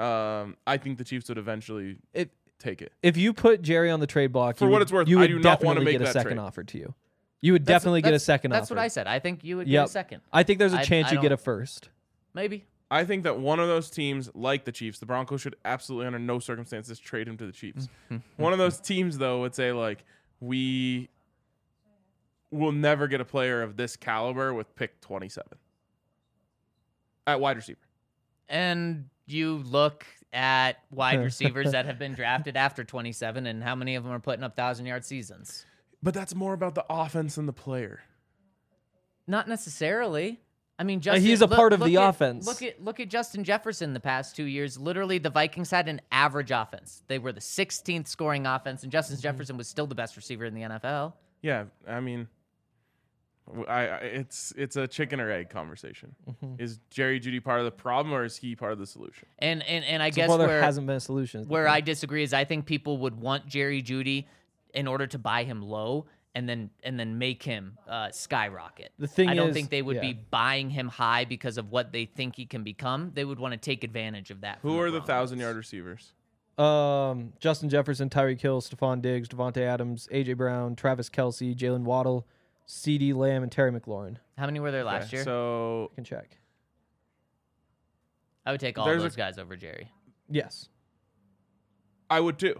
I think the Chiefs would eventually take it. If you put Jerry on the trade block, For you what would- it's worth, you I would do not wanna definitely make get a that second trade. offer to you. You would definitely get a second That's offer. what I said. I think you would get Yep. a second. I think there's a I- chance I you get don't- a first. Maybe. I think that one of those teams, like the Chiefs, the Broncos should absolutely, under no circumstances, trade him to the Chiefs. One of those teams, though, would say, like, we will never get a player of this caliber with pick 27 at wide receiver. And you look at wide receivers that have been drafted after 27, and how many of them are putting up 1,000-yard seasons? But that's more about the offense than the player. Not necessarily. I mean, Justin, he's a part of the at- offense. Look at Justin Jefferson the past 2 years. Literally, the Vikings had an average offense. They were the 16th scoring offense, and Justin Jefferson was still the best receiver in the NFL. Yeah, I mean, it's a chicken or egg conversation. Is Jerry Jeudy part of the problem, or is he part of the solution? And I So guess far, there where hasn't been a solution. where I disagree is I think people would want Jerry Jeudy in order to buy him low and then make him skyrocket. The thing I don't is- think they would yeah. be buying him high because of what they think he can become. They would want to take advantage of that. Who from are the Broncos. 1,000-yard receivers? Justin Jefferson, Tyreek Hill, Stephon Diggs, Devontae Adams, AJ Brown, Travis Kelce, Jalen Waddle, CeeDee Lamb, and Terry McLaurin. How many were there last Okay, year? So I can check. I would take all there's those guys over Jerry. Yes. I would too.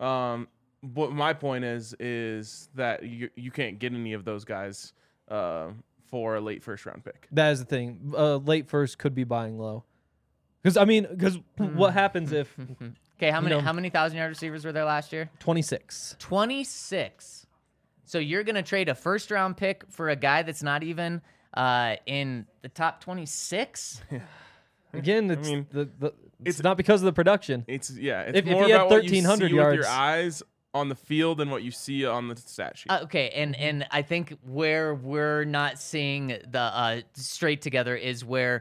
But my point is that you can't get any of those guys for a late first round pick. That is the thing. Late first could be buying low. Because what happens if Okay, how many know- how many 1,000-yard receivers were there last year? 26? 26. So you're gonna trade a first round pick for a guy that's not even in the top 26? Again, it's mean, it's not because of the production. It's It's If more he had about what you see 1,300 with your yards- eyes on the field than what you see on the stat sheet. Okay, and I think where we're not seeing the straight together is where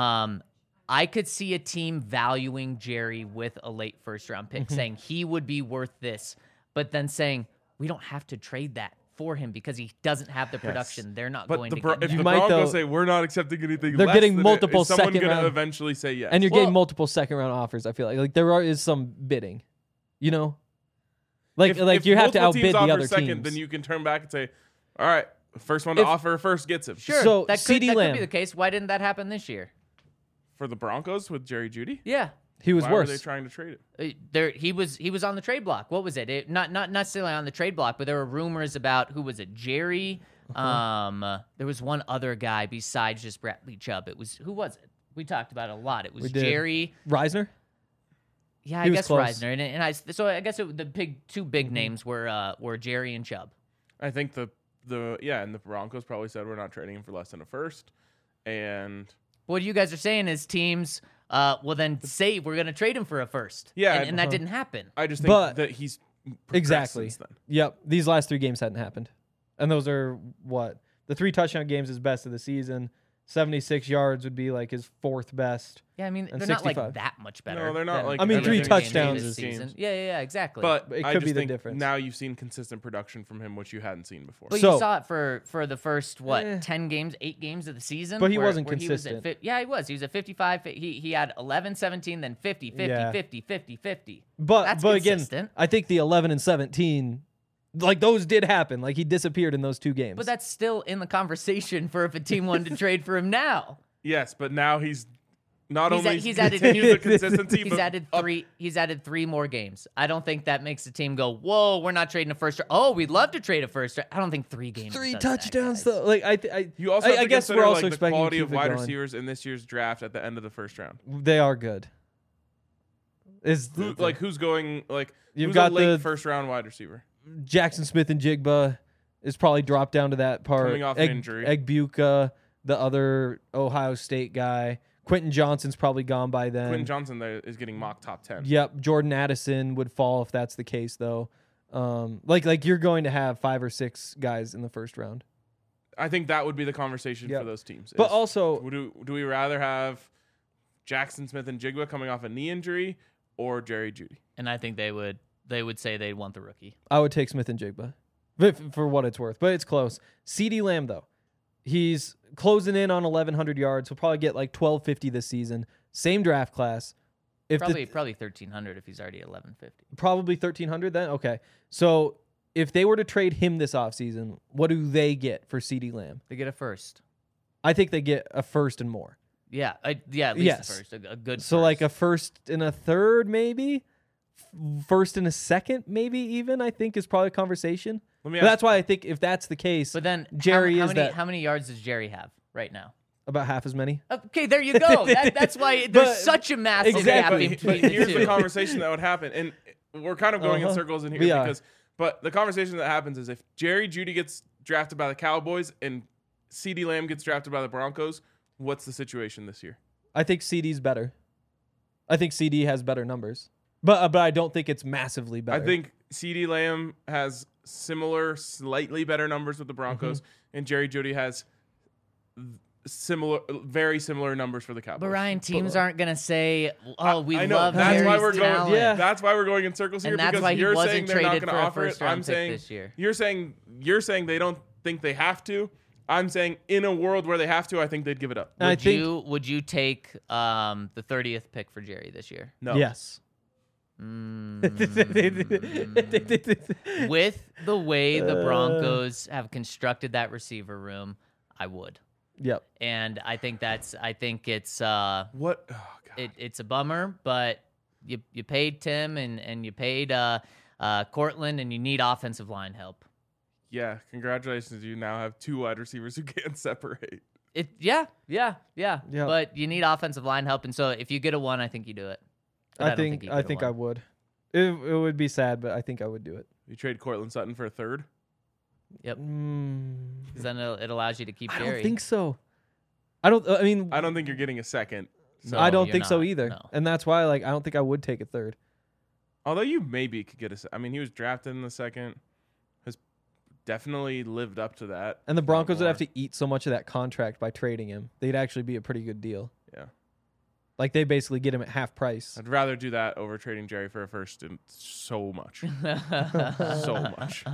I could see a team valuing Jerry with a late first round pick, saying he would be worth this, but then saying we don't have to trade that for him because he doesn't have the production. They're not But going the to Bro- get if that. the might, Broncos though- say we're not accepting anything, They're less getting than multiple is someone second gonna round- eventually say yes? And you're Well- getting multiple second round offers. I feel like there is some bidding. You know, like if you have to multiple teams outbid the offer other second, teams. then you can turn back and say, "All right, first one to If- offer first gets him." Sure, So, that CeeDee could Lamb. be the case. Why didn't that happen this year? For the Broncos with Jerry Jeudy, Yeah. He was why worse. were they trying to trade it? He was on the trade block. What was it? Not necessarily on the trade block, but there were rumors about who was it? Jerry. There was one other guy besides just Bradley Chubb. Who was it? We talked about it a lot. It was We did. Jerry. Reisner. Yeah, I He was guess close. Reisner, and I guess the two big names were Jerry and Chubb. I think and the Broncos probably said we're not trading him for less than a first, and What you guys are saying is teams will then say we're going to trade him for a first. Yeah, and that didn't happen. I just think But- that he's progressed Exactly. since then. Yep. These last 3 games hadn't happened, and those are what the 3 touchdown games is best of the season. 76 yards would be like his 4th best. Yeah, I mean And they're not 65. like that much better. No, they're not than like I mean, the 3 other touchdowns games is this season. games. Yeah, exactly. But It I could just be the think difference. now you've seen consistent production from him, which you hadn't seen before. But So- you saw it for the first 10 games, 8 games of the season. But he where- wasn't where he was consistent. at yeah, he was. He was at 55. He had 11, 17, then 50, 50, Yeah. 50, 50, 50. But That's but again, consistent. I think the 11 and 17, like those did happen. Like he disappeared in those 2 games. But that's still in the conversation for if a team wanted to trade for him now. Yes, but now he's not only He's added continues the consistency, He's but added 3. He's added 3 more games. I don't think that makes the team go, "Whoa, we're not trading a first." Oh, we'd love to trade a first. I don't think 3 games. 3 does that, touchdowns guys. though. Like I You also have I to guess consider we're also like, the expecting quality to of keep it wide going. receivers in this year's draft at the end of the first round. They are good. Is Who's going like You've who's got a late the- first round wide receiver? Jackson Smith and Jigba is probably dropped down to that part. Coming off an injury. Egbuka, the other Ohio State guy. Quentin Johnson's probably gone by then. Quentin Johnson there is getting mock top 10. Yep, Jordan Addison would fall if that's the case though. Like you're going to have 5 or 6 guys in the first round. I think that would be the conversation Yep. for those teams. But is, also do we rather have Jackson Smith and Jigba coming off a knee injury or Jerry Jeudy? And I think they would say they'd want the rookie. I would take Smith and Jigba for what it's worth, but it's close. CeeDee Lamb though, he's closing in on 1,100 yards. He'll probably get like 1,250 this season. Same draft class. If Probably 1,300 if he's already at 1150. probably 1,300 then. Okay, so if they were to trade him this offseason, what do they get for CeeDee Lamb? They get a first. I think they get a first and more. Yeah, at least Yes. a first, a good. So first. like a first and a third, maybe. First and a second, maybe even. I think is probably a conversation. Let me But ask, that's why I think if that's the case, But then Jerry how is many, that How many yards does Jerry have right now? about half as many. Okay, there you go. That's why there's But- such a massive Exactly. gap but between the here's the two. conversation that would happen, and we're kind of going in Uh-huh. circles in here We are. but the conversation that happens is if Jerry Jeudy gets drafted by the Cowboys and CeeDee Lamb gets drafted by the Broncos, what's the situation this year? I think CD's better. I think CD has better numbers, but I don't think it's massively better. I think CeeDee Lamb has similar, slightly better numbers with the Broncos, Mm-hmm. and Jerry Jeudy has very similar numbers for the Cowboys. But Ryan, teams aren't gonna say, "Oh, we I know. love That's Jerry's why we're going. talent." Yeah. That's why we're going in circles here And that's because why he you're wasn't saying they're not traded going to for a offer it. first-round I'm pick saying this year. you're saying they don't think they have to. I'm saying in a world where they have to, I think they'd give it up. And I Would think would you take the 30th pick for Jerry this year? No. yes. With the way the Uh. Broncos have constructed that receiver room, I would. Yep. And I think it's What? Oh, God. it's a bummer, but you paid Tim and you paid Cortland, and you need offensive line help. Yeah. Congratulations. You now have 2 wide receivers who can't separate. Yeah. Yeah. But you need offensive line help, and so if you get a 1, I think you do it. But I don't think you I get a think 1. I would. It would be sad, but I think I would do it. You trade Cortland Sutton for a third. Yep. Mm, 'Cause then it allows you to keep I Jerry. don't think so. I mean, I don't think you're getting a second. So, I don't you're think so not, either. no. And that's why, like, I don't think I would take a third. although you maybe could get a. I mean, he was drafted in the second. Has definitely lived up to that. And the if not Broncos would have more. to eat so much of that contract by trading him. They'd actually be a pretty good deal. Yeah. Like, they basically get him at half price. I'd rather do that over trading Jerry for a first and so much. So much.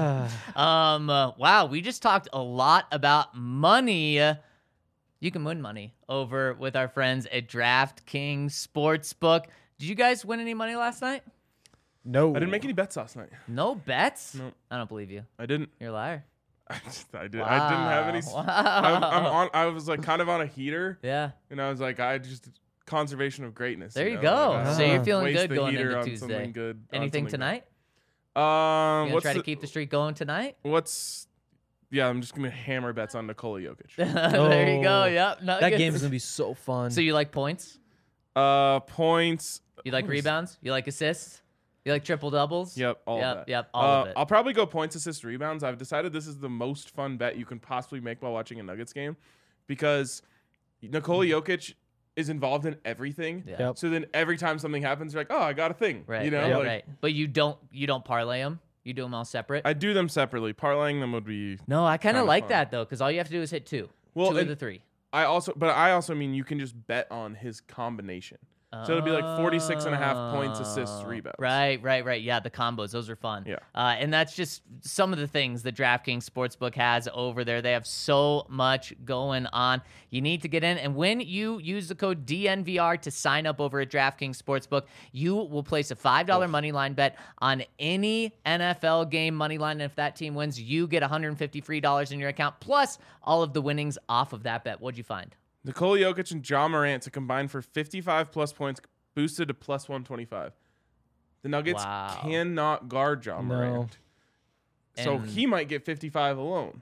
Wow, we just talked a lot about money. You can win money over with our friends at DraftKings Sportsbook. Did you guys win any money last night? No. I didn't make any bets last night. No bets? No. I don't believe you. I didn't. You're a liar. I didn't have any. Wow. I was like kind of on a heater, Yeah. and I was like, conservation of greatness. There you know? go. Like, So you're feeling waste good the going heater into on Tuesday. something good. on Anything something tonight? good. You gonna What's try to the- keep the streak going tonight? What's I'm just gonna hammer bets on Nikola Jokic. There you go. Oh. Yep. That Nuggets. game's gonna be so fun. So you like points? Points. You like rebounds? You like assists? You like triple doubles? Yep, all of that. Yep, all of it. I'll probably go points, assists, rebounds. I've decided this is the most fun bet you can possibly make while watching a Nuggets game because Nikola Jokic is involved in everything. Yeah. Yep. So then every time something happens, you're like, oh, I got a thing. Right. You know, right, like, right. But you don't parlay them. You do them all separate. I do them separately. Parlaying them would be. No, I kind of Kinda like fun. that though, because all you have to do is hit two. Well, Two of and the three. I also mean you can just bet on his combination. So it'll be like 46.5 points, assists, rebounds. Right. Yeah, the combos, those are fun. Yeah. And that's just some of the things that DraftKings Sportsbook has over there. They have so much going on. You need to get in. And when you use the code DNVR to sign up over at DraftKings Sportsbook, you will place a $5 money line bet on any NFL game money line. And if that team wins, you get $150 free in your account, plus all of the winnings off of that bet. What'd you find? Nikola Jokic and Ja Morant to combine for 55 plus points, boosted to plus 125. The Nuggets Wow. cannot guard Ja Morant. So And- he might get 55 alone.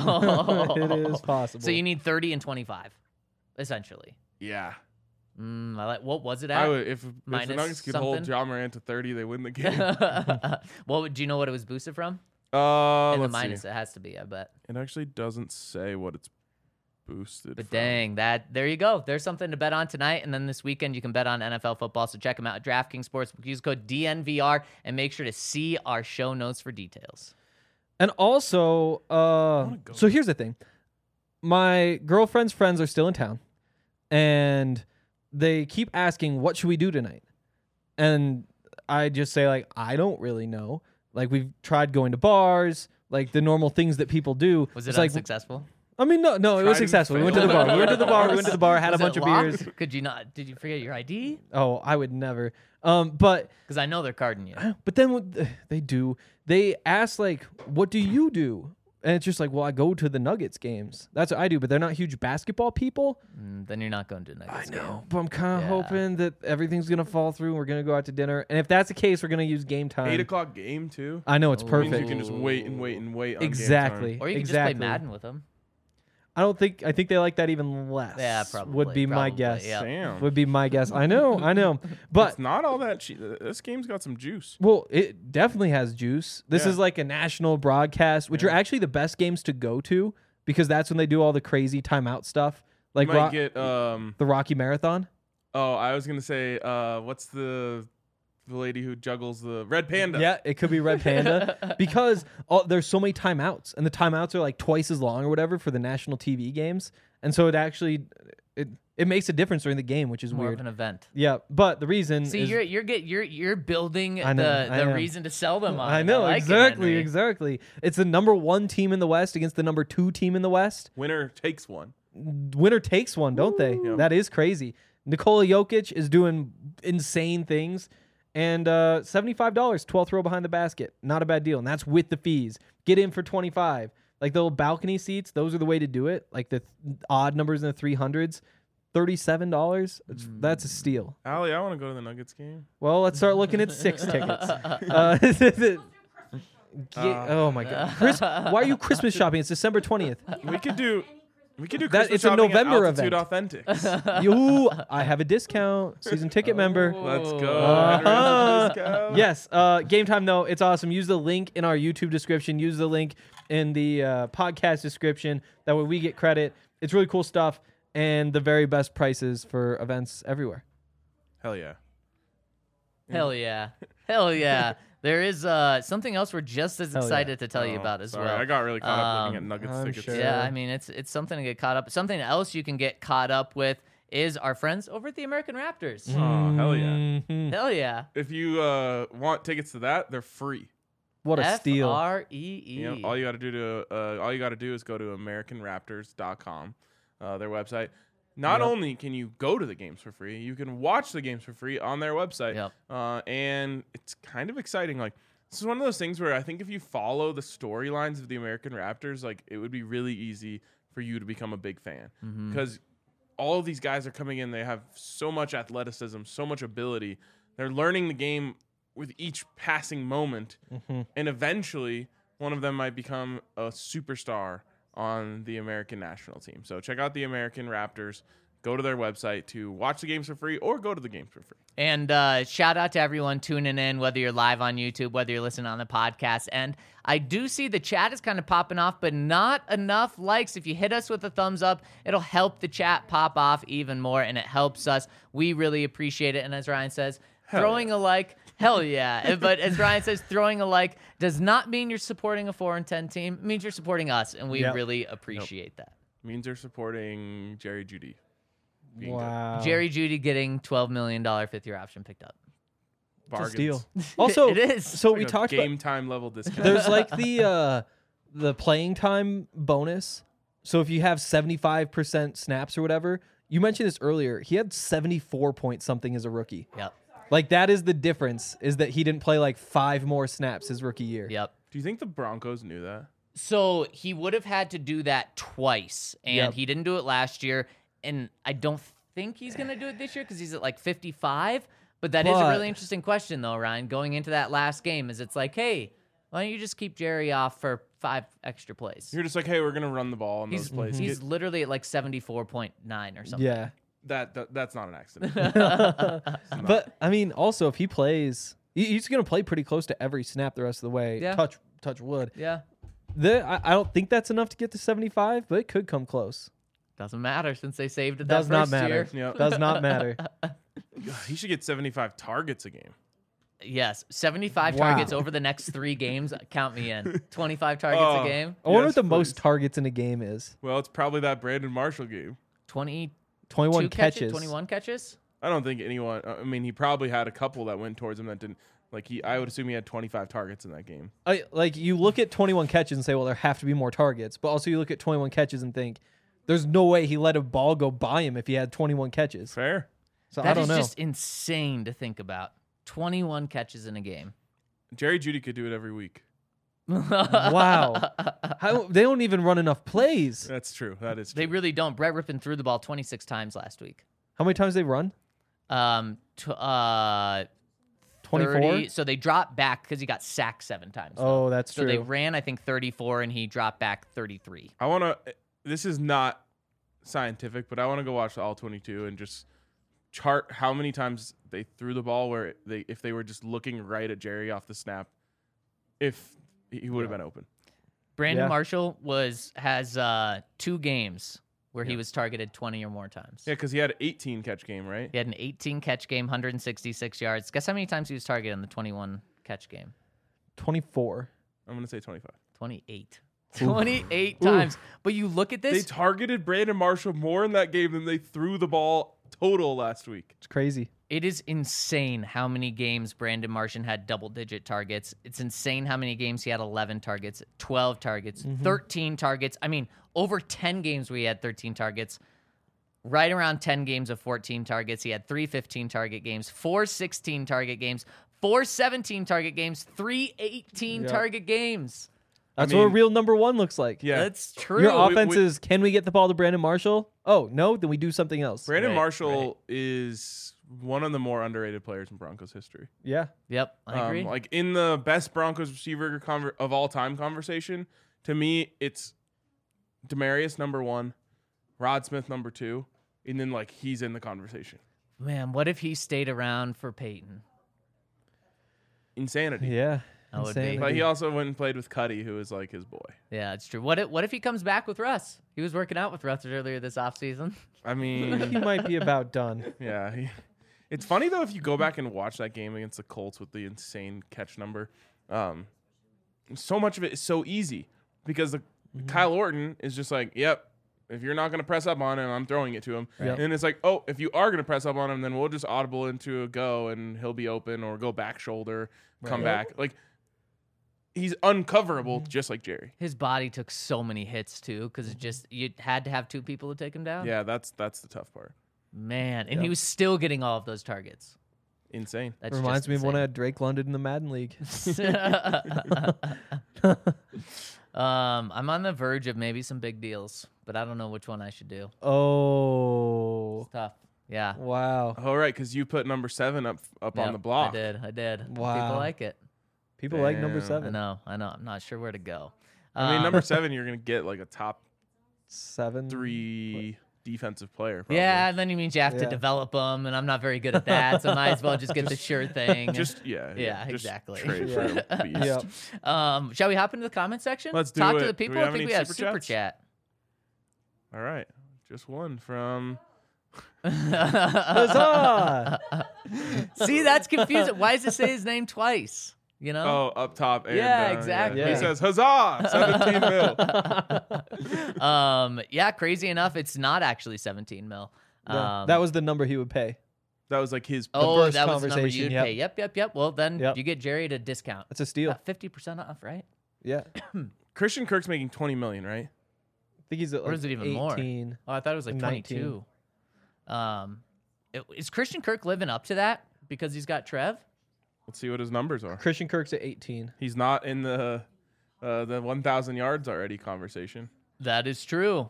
It is possible. So you need 30 and 25, essentially. Yeah. I like. What was it at? I would if the Minus Nuggets could hold something? Ja Morant to 30, they win the game. Do you know what it was boosted from? In the Let's minus, see. it has to be. I bet. It actually doesn't say what it's boosted But from. dang, there you go. There's something to bet on tonight, and then this weekend you can bet on NFL football. So check them out at DraftKings Sportsbook. Use code DNVR and make sure to see our show notes for details. And also, so here's the thing. My girlfriend's friends are still in town, and they keep asking, what should we do tonight? And I just say, like, I don't really know. Like, we've tried going to bars, like the normal things that people do. Was it It's like, unsuccessful? I mean, no, it Tried was and successful. We went to the failed. bar. We went to the bar, had Was a bunch it of locked? beers. Could you not? Did you forget your ID? Oh, I would never. But Because I know they're carding you. then what they do, they ask, like, what do you do? And it's just like, well, I go to the Nuggets games. That's what I do, but they're not huge basketball people. Then you're not going to Nuggets game. But I'm kind of Yeah. hoping that everything's going to fall through and we're going to go out to dinner. And if that's the case, we're going to use game time. 8 o'clock game, too. I know, it's Means perfect. you can just wait and wait and wait on Exactly. Game time. Or you can exactly. just play Madden with them. I think they like that even less. Yeah, probably. Would be my probably, guess. yeah. Damn. Would be my guess. I know. But It's not all that cheap. This game's got some juice. well, it definitely has juice. This Yeah. is like a national broadcast, which are actually the best games to go to because that's when they do all the crazy timeout stuff, like You might get the Rocky Marathon. Oh, I was gonna say, what's the lady who juggles the Red Panda? Yeah, it could be Red Panda because there's so many timeouts, and the timeouts are like twice as long or whatever for the national TV games, and so it actually it makes a difference during the game, which is More weird. of an event. Yeah, but the reason See, is you're building I know, the I am. reason to sell them on. I know like it, exactly, Henry. exactly. It's the number 1 team in the West against the number 2 team in the West. Winner takes one. Winner takes one, don't they? Yep. That is crazy. Nikola Jokic is doing insane things. And $75, 12th row behind the basket. Not a bad deal. And that's with the fees. Get in for $25. Like the little balcony seats, those are the way to do it. Like the odd numbers in the 300s. $37. That's a steal. Allie, I want to go to the Nuggets game. Well, let's start looking at 6 tickets. Oh my God. Why are you Christmas shopping? It's December 20th. We could do That- Christmas it's a shopping November at Altitude event. Authentics. You, I have a discount. Season ticket member. Let's go. Uh-huh. Let's go. Yes. Game time, though. It's awesome. Use the link in our YouTube description. Use the link in the podcast description. That way we get credit. It's really cool stuff and the very best prices for events everywhere. Hell yeah. Hell yeah. Hell yeah. There is something else we're just as Hell yeah. excited to tell you Oh, about as sorry, well. I got really caught up looking at Um, Nuggets I'm tickets. sure. Yeah, I mean it's something to get caught up. Something else you can get caught up with is our friends over at the American Raptors. Oh, hell yeah. Mhm. Hell yeah. If you want tickets to that, they're free. What a steal. FREE. You know, all you got to do is go to AmericanRaptors.com, their website. Not only can you go to the games for free, you can watch the games for free on their website. Yep. And it's kind of exciting. Like, this is one of those things where I think if you follow the storylines of the American Raptors, like, it would be really easy for you to become a big fan. Because all of these guys are coming in, they have so much athleticism, so much ability. They're learning the game with each passing moment. And eventually, one of them might become a superstar on the American national team. So check out the American Raptors. Go to their website to watch the games for free or go to the games for free. And shout out to everyone tuning in, whether you're live on YouTube, whether you're listening on the podcast. And I do see the chat is kind of popping off, but not enough likes. If you hit us with a thumbs up, it'll help the chat pop off even more, and it helps us. We really appreciate it. And as Ryan says, throwing a like, hell yeah. But as Ryan says, throwing a like does not mean you're supporting a 4-10 team. It means you're supporting us, and we really appreciate that. Means they're supporting Jerry Jeudy. being Wow. Jerry Jeudy getting $12 million fifth-year option picked up. It's a bargains. steal. Also, It is. So Like we a talked game about time level discount. there's like the playing time bonus. So if you have 75% snaps or whatever, you mentioned this earlier. He had 74 point something as a rookie. Yep. Like that is the difference, is that he didn't play like 5 more snaps his rookie year. Yep. Do you think the Broncos knew that? So he would have had to do that twice, and Yep. he didn't do it last year. And I don't think he's going to do it this year because he's at like 55. But that is a But- really interesting question, though, Ryan. Going into that last game, is it's like, hey, why don't you just keep Jerry off for 5 extra plays? You're just like, hey, we're gonna run the ball in those plays. He's literally at like 74.9 or something. Yeah. That's not an accident. But I mean, also if he plays, he's going to play pretty close to every snap the rest of the way. Yeah. Touch wood. Yeah. I don't think that's enough to get to 75, but it could come close. Doesn't matter since they saved it that Does not first matter. year. Yep. Does not matter. He should get 75 targets a game. Yes, 75 Wow. targets over the next 3 games. Count me in. 25 targets Oh. a game. I wonder Yes, what the please. most targets in a game is. Well, it's probably that Brandon Marshall game. 22 21 catches. 21 catches. I don't think anyone. I mean, he probably had a couple that went towards him that didn't. I would assume he had 25 targets in that game. Like you look at 21 catches and say, well, there have to be more targets. But also you look at 21 catches and think, there's no way he let a ball go by him if he had 21 catches. Fair. So I That don't is know. just insane to think about. 21 catches in a game. Jerry Jeudy could do it every week. Wow. They don't even run enough plays. That's true. That is They true. really don't. Brett Rippon threw the ball 26 times last week. How many times they run? 24? 30. So they dropped back because he got sacked 7 times. though. Oh, that's So true. they ran, I think, 34, and he dropped back 33. I want to. This is not scientific, but I want to go watch the All 22 and just chart how many times they threw the ball where if they were just looking right at Jerry off the snap, if he would have been open. Brandon Yeah. Marshall has 2 games where he was targeted 20 or more times. Yeah, because he had an 18 catch game, right? He had an 18 catch game, 166 yards. Guess how many times he was targeted in the 21 catch game? 24. I'm gonna say 25. 28. 28 times. But you look at They this. targeted Brandon Marshall more in that game than they threw the ball total last week. It's crazy. It is insane how many games Brandon Martian had double-digit targets. It's insane how many games he had 11 targets, 12 targets, 13 targets. I mean, over 10 games where he had 13 targets. Right around 10 games of 14 targets. He had 3 15-target games, 4 16-target games, 4 17-target games, 3 18-target games. That's I what a mean- real number one looks like. Yeah, That's true. Your we- offense is, can we get the ball to Brandon Marshall? Oh, no? Then we do something else. Brandon Right, Marshall is one of the more underrated players in Broncos history. Yeah. Yep, I agree. Like in the best Broncos receiver of all time conversation, to me, it's Demaryius number 1, Rod Smith number 2, and then like he's in the conversation. Man, what if he stayed around for Peyton? Insanity. Yeah. That would be. Insanity. But he also went and played with Cuddy, who is like his boy. Yeah, it's true. What if he comes back with Russ? He was working out with Russ earlier this offseason. I he mean, might be about done. yeah. It's funny though if you go back and watch that game against the Colts with the insane catch number. So much of it is so easy because Kyle Orton is just like, yep. If you're not going to press up on him, I'm throwing it to him. Right. And it's like, oh, if you are going to press up on him, then we'll just audible into a go and he'll be open or go back shoulder, come back. Like, he's uncoverable just like Jerry. His body took so many hits too, because you had to have 2 people to take him down. Yeah, that's the tough part. Man, and he was still getting all of those targets. Insane. That's Reminds just me of when I insane. had Drake London in the Madden League. I'm on the verge of maybe some big deals, but I don't know which one I should do. Oh. It's tough. Yeah. Wow. All right, because you put number 7 up on Yep, the block. I did. Wow. People like it. People like number Damn. 7. I know. I'm not sure where to go. I mean, number 7, you're gonna get like a top 7. 3 defensive player. Probably. Yeah, and then it means you have to Yeah. develop them, and I'm not very good at that, so I might as well just get the sure thing. Just yeah, Yeah, just exactly. Trade for a beast. Yep. Shall we hop into the comment section? Let's do Talk it. to the Do we people. have I think any we have super super chats? chat. All right, just one from. Huzzah! See, that's confusing. Why does it say his name twice? You know? Oh, up top. And, Yeah, exactly. He Yeah. says, "Huzzah! 17 mil." Yeah, crazy enough, it's not actually 17 mil. Yeah, that was the number he would pay. That was like his. Oh, first that was the number conversation, you'd yep. pay. Yep. Well, then Yep. you get Jerry at a discount. That's a steal. 50% off, right? Yeah. Christian Kirk's making 20 million, right? I think he's at Or is it even more? 18. Oh, I thought it was like 19. 22. Is Christian Kirk living up to that because he's got Trev? Let's see what his numbers are. Christian Kirk's at 18. He's not in the 1,000 yards already conversation. That is true.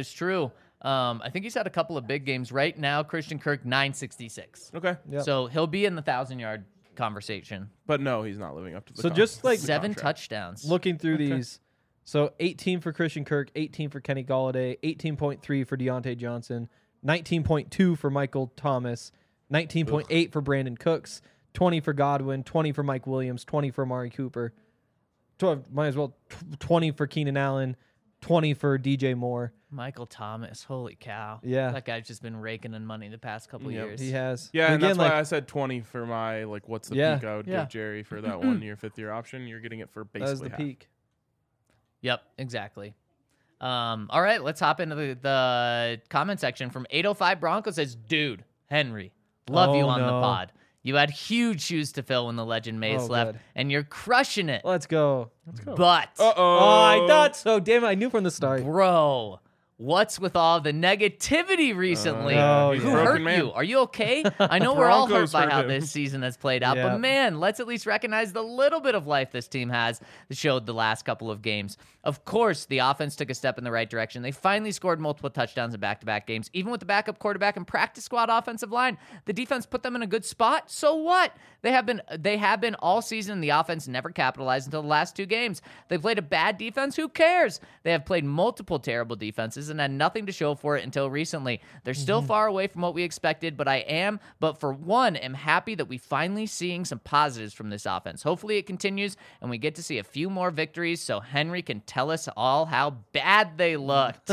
I think he's had a couple of big games. Right now, Christian Kirk, 966. Okay, Yep. So he'll be in the 1,000-yard conversation. but no, he's not living up to the. So just like 7 contract. touchdowns. looking through these, so 18 for Christian Kirk, 18 for Kenny Galladay, 18.3 for Deontay Johnson, 19.2 for Michael Thomas, 19.8 for Brandon Cooks, 20 for Godwin, 20 for Mike Williams, 20 for Amari Cooper, might as well 20 for Keenan Allen, 20 for DJ Moore. Michael Thomas, holy cow. Yeah. That guy's just been raking in money the past couple Yep. years. He has. Yeah, and again, that's why I said 20 for my what's the Yeah. peak I would Yeah. give Jerry for that 1 year, 5th year option. You're getting it for that was basically the half. peak. Yep, exactly. All right, let's hop into the comment section from 805 Broncos says, dude, Henry, love you Oh, on the no. pod. You had huge shoes to fill when the legend Mace Oh, left, good. and you're crushing it. Let's go. But, Uh-oh. Oh, I thought so. Damn it. I knew from the start. bro, what's with all the negativity recently? Oh, he's Who a broken hurt man. you? Are you okay? I know we're all hurt Broncos by hurt how him. this season has played out, Yeah. but man, let's at least recognize the little bit of life this team has showed the last couple of games. Of course, the offense took a step in the right direction. They finally scored multiple touchdowns in back-to-back games. Even with the backup quarterback and practice squad offensive line, the defense put them in a good spot. So what? They have been all season. The offense never capitalized until the last 2 games. They played a bad defense. Who cares? They have played multiple terrible defenses and had nothing to show for it until recently. They're still far away from what we expected, but for one, am happy that we finally seeing some positives from this offense. Hopefully it continues and we get to see a few more victories so Henry can tell us all how bad they looked.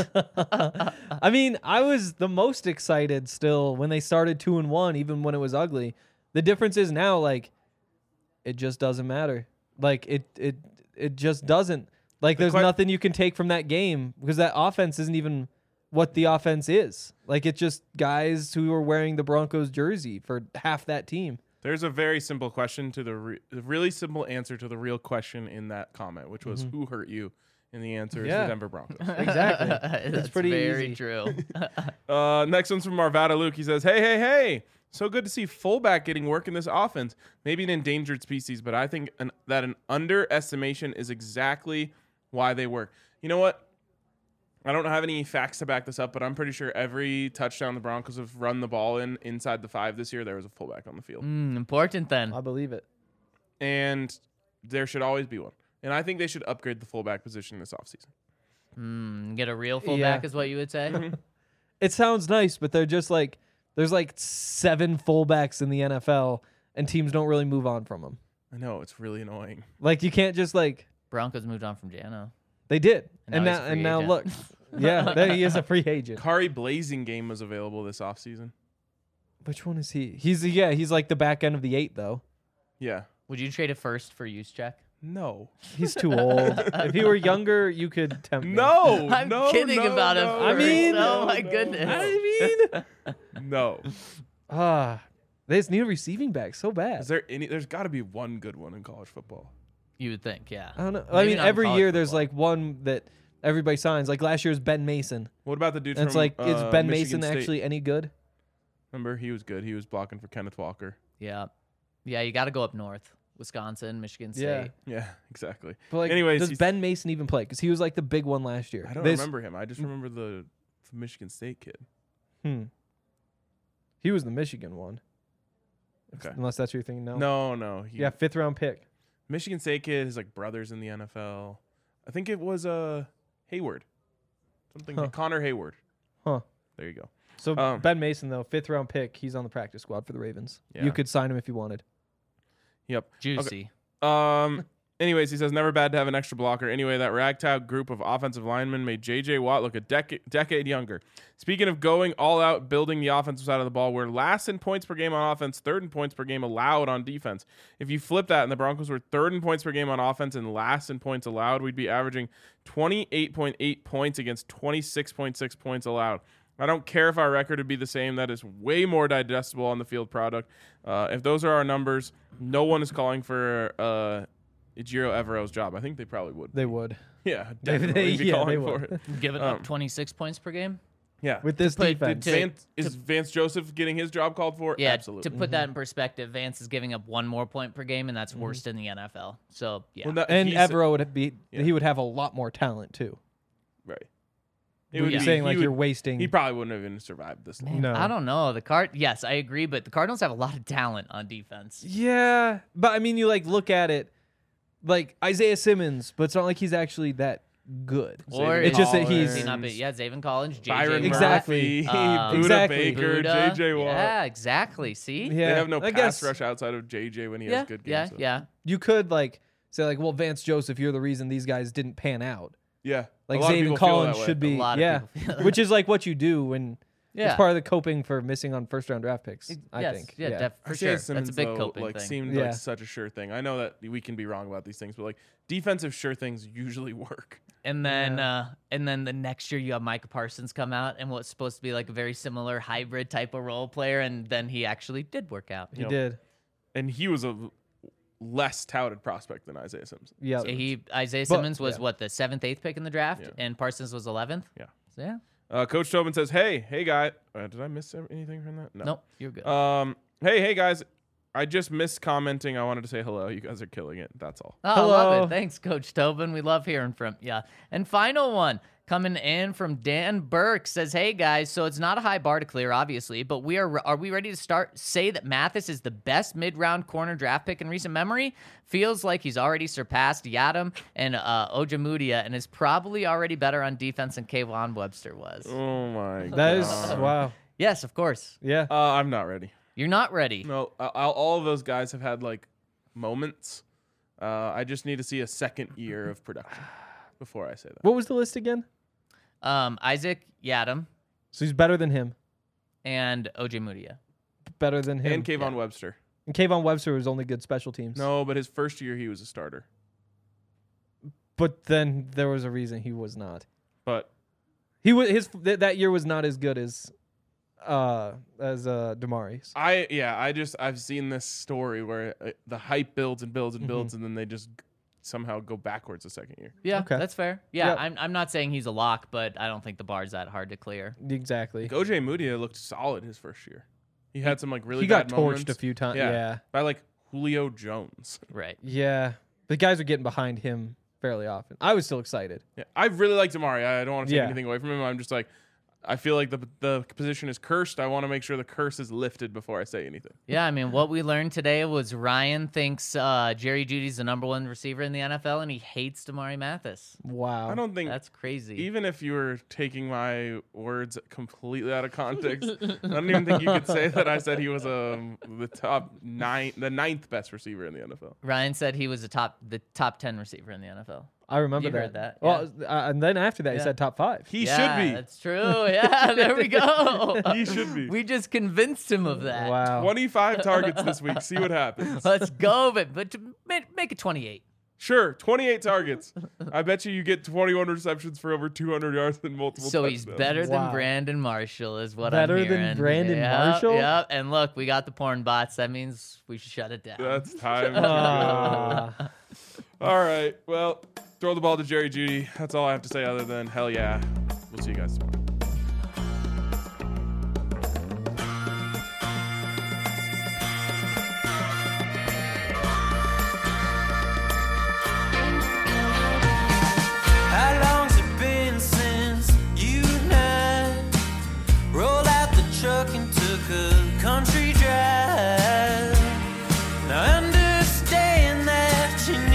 I mean, I was the most excited still when they started 2-1, even when it was ugly. The difference is now, like, it just doesn't matter. Like, it just doesn't. Like, there's nothing you can take from that game because that offense isn't even what the offense is. Like, it's just guys who are wearing the Broncos jersey for half that team. There's a very simple question to the really simple answer to the real question in that comment, which was who hurt you, and the answer is Yeah. the Denver Broncos. Exactly. That's pretty very easy. true. Next one's from Marvada Luke. He says, hey. So good to see fullback getting work in this offense. Maybe an endangered species, but I think that an underestimation is exactly why they work. You know what? I don't have any facts to back this up, but I'm pretty sure every touchdown the Broncos have run the ball inside the 5 this year, there was a fullback on the field. Important then. I believe it. And there should always be one. And I think they should upgrade the fullback position this offseason. Get a real fullback Yeah. is what you would say? It sounds nice, but they're just like, there's like 7 fullbacks in the NFL, and teams don't really move on from them. I know, it's really annoying. Like, you can't just like, Broncos moved on from Jano. they did. And now he's a free now agent. look. Yeah, there he is a free agent. Kari Blazing game was available this offseason. Which one is he? He's like the back end of the 8 though. Yeah. Would you trade a first for use check? No. He's too old. If he were younger, you could tempt me. No. I'm no, kidding no, about no, him. I mean- oh my no. goodness. I mean, No. they just need a receiving back so Is bad. there any? There's got to be one good one in college football. You would think, yeah. I don't know. I Maybe mean, not in every college year there's football. like one that everybody signs. Like last year's Ben Mason. What about the dude And from it's like, is Ben Michigan Mason State? actually any good? Remember, he was good. He was blocking for Kenneth Walker. Yeah. Yeah, you got to go up north. Wisconsin, Michigan State. Yeah. Yeah, exactly. But like, Anyways, does he's- Ben Mason even play? Because he was like the big one last year. I don't This- remember him. I just remember the Michigan State kid. He was the Michigan one. Okay. Unless that's what you're thinking. No. No. Yeah, 5th round pick. Michigan State kid, his like brothers in the NFL. I think it was Hayward. Something Connor Hayward. Huh. There you go. So Ben Mason, though, 5th round pick, he's on the practice squad for the Ravens. Yeah. You could sign him if you wanted. Yep. Juicy. Anyways, he says never bad to have an extra blocker. Anyway, that ragtag group of offensive linemen made J.J. Watt look a decade younger. Speaking of going all out, building the offensive side of the ball, we're last in points per game on offense, 3rd in points per game allowed on defense. If you flip that and the Broncos were 3rd in points per game on offense and last in points allowed, we'd be averaging 28.8 points against 26.6 points allowed. I don't care if our record would be the same. That is way more digestible on the field product. If those are our numbers, no one is calling for Ejiro Evero's job. I think they probably would. They would. Yeah, definitely be calling they for would. it. Giving up 26 points per game. Yeah. With this defense. Is Vance Joseph getting his job called for? Yeah, Absolutely. to put that in perspective, Vance is giving up 1 more point per game, and that's worst in the NFL. So, yeah. Well, And he's- Evero would be he would have a lot more talent too. Right. You're saying like you're wasting. He probably wouldn't have even survived this long. No. I don't know. Yes, I agree, but the Cardinals have a lot of talent on defense. Yeah, but I mean, you like look at it, like Isaiah Simmons, but it's not like he's actually that good. Or Zaven it's just that Collins, he's Zaven Collins, JJ Byron Exactly. Murphy, Buda Exactly. Baker, Buddha. JJ Watt. Yeah, exactly. See? Yeah, They have no I pass guess rush outside of JJ when he yeah, has good yeah, games. so. yeah. you could like say like, well, Vance Joseph, you're the reason these guys didn't pan out. Yeah. Like A lot of Zaven people feel Collins that way. should be, A lot of yeah, people feel which is like what you do when Yeah. it's part of the coping for missing on 1st round draft picks. I Yes, think. yeah, for Isaiah sure. Simmons, That's a big though, coping like, thing. seemed Yeah. like such a sure thing. I know that we can be wrong about these things, but like defensive sure things usually work. And then the next year you have Micah Parsons come out and what's supposed to be like a very similar hybrid type of role player, and then he actually did work out. He did. And he was a less touted prospect than Isaiah Simmons. Yeah. So Isaiah Simmons was yeah. what, the 7th, 8th pick in the draft, Yeah. and Parsons was 11th. Yeah. So yeah. Coach Tobin says, hey guy. Did I miss anything from that? No. Nope, you're good. Hey guys. I just missed commenting. I wanted to say hello. You guys are killing it. That's all. Oh, I love Hello. it. Thanks, Coach Tobin. We love hearing from you. And final one coming in from Dan Burke says, "Hey guys, so it's not a high bar to clear, obviously, but are we ready to say that Mathis is the best mid-round corner draft pick in recent memory? Feels like he's already surpassed Yadam and Ojemudia, and is probably already better on defense than Kayvon Webster was." Oh my god. That is wow. Yes, of course. Yeah. I'm not ready. You're not ready. No, all of those guys have had like moments. I just need to see a second year of production before I say that. What was the list again? Isaac Yadam So he's better than him. and Ojemudia. Better than him. And Kayvon Webster. And Kayvon Webster was only good special teams. No, but his first year he was a starter. But then there was a reason he was not. But He was that year was not as good as Damari's. I've seen this story where the hype builds and builds and builds, and then they just somehow go backwards the second year. Yeah, Okay. that's fair. Yeah, Yep. I'm not saying he's a lock, but I don't think the bar's that hard to clear. Exactly. Like OJ Mudia looked solid his first year. He had some like really He got bad torched moments. a few times. Yeah. Yeah. By like Julio Jones. Right. Yeah. The guys are getting behind him fairly often. I was still excited. Yeah, I really like Damari. I don't want to take Yeah. anything away from him. I'm just like, I feel like the position is cursed. I want to make sure the curse is lifted before I say anything. Yeah, I mean, what we learned today was Ryan thinks Jerry Jeudy's the #1 receiver in the NFL, and he hates Damari Mathis. Wow. I don't think That's crazy. even if you were taking my words completely out of context, I don't even think you could say that I said he was the ninth best receiver in the NFL. Ryan said he was the top 10 receiver in the NFL. I remember You that. heard that, Well, and then after that, he Yeah. said top 5. He Yeah, should be. That's true. Yeah, there we go. He should be. We just convinced him of that. Wow. 25 targets this week. See what happens. Let's go, but make it 28. Sure, 28 targets. I bet you get 21 receptions for over 200 yards and multiple So touchdowns. he's better than Wow. Brandon Marshall, is what Better I'm than hearing. Brandon Yep, Marshall? Yep. And look, we got the porn bots. That means we should shut it down. That's time to Ah. go. All right. Well, throw the ball to Jerry Jeudy. That's all I have to say other than hell yeah. We'll see you guys tomorrow. How long's it been since you and I rolled out the truck and took a country drive? Now I understand that you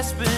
grasping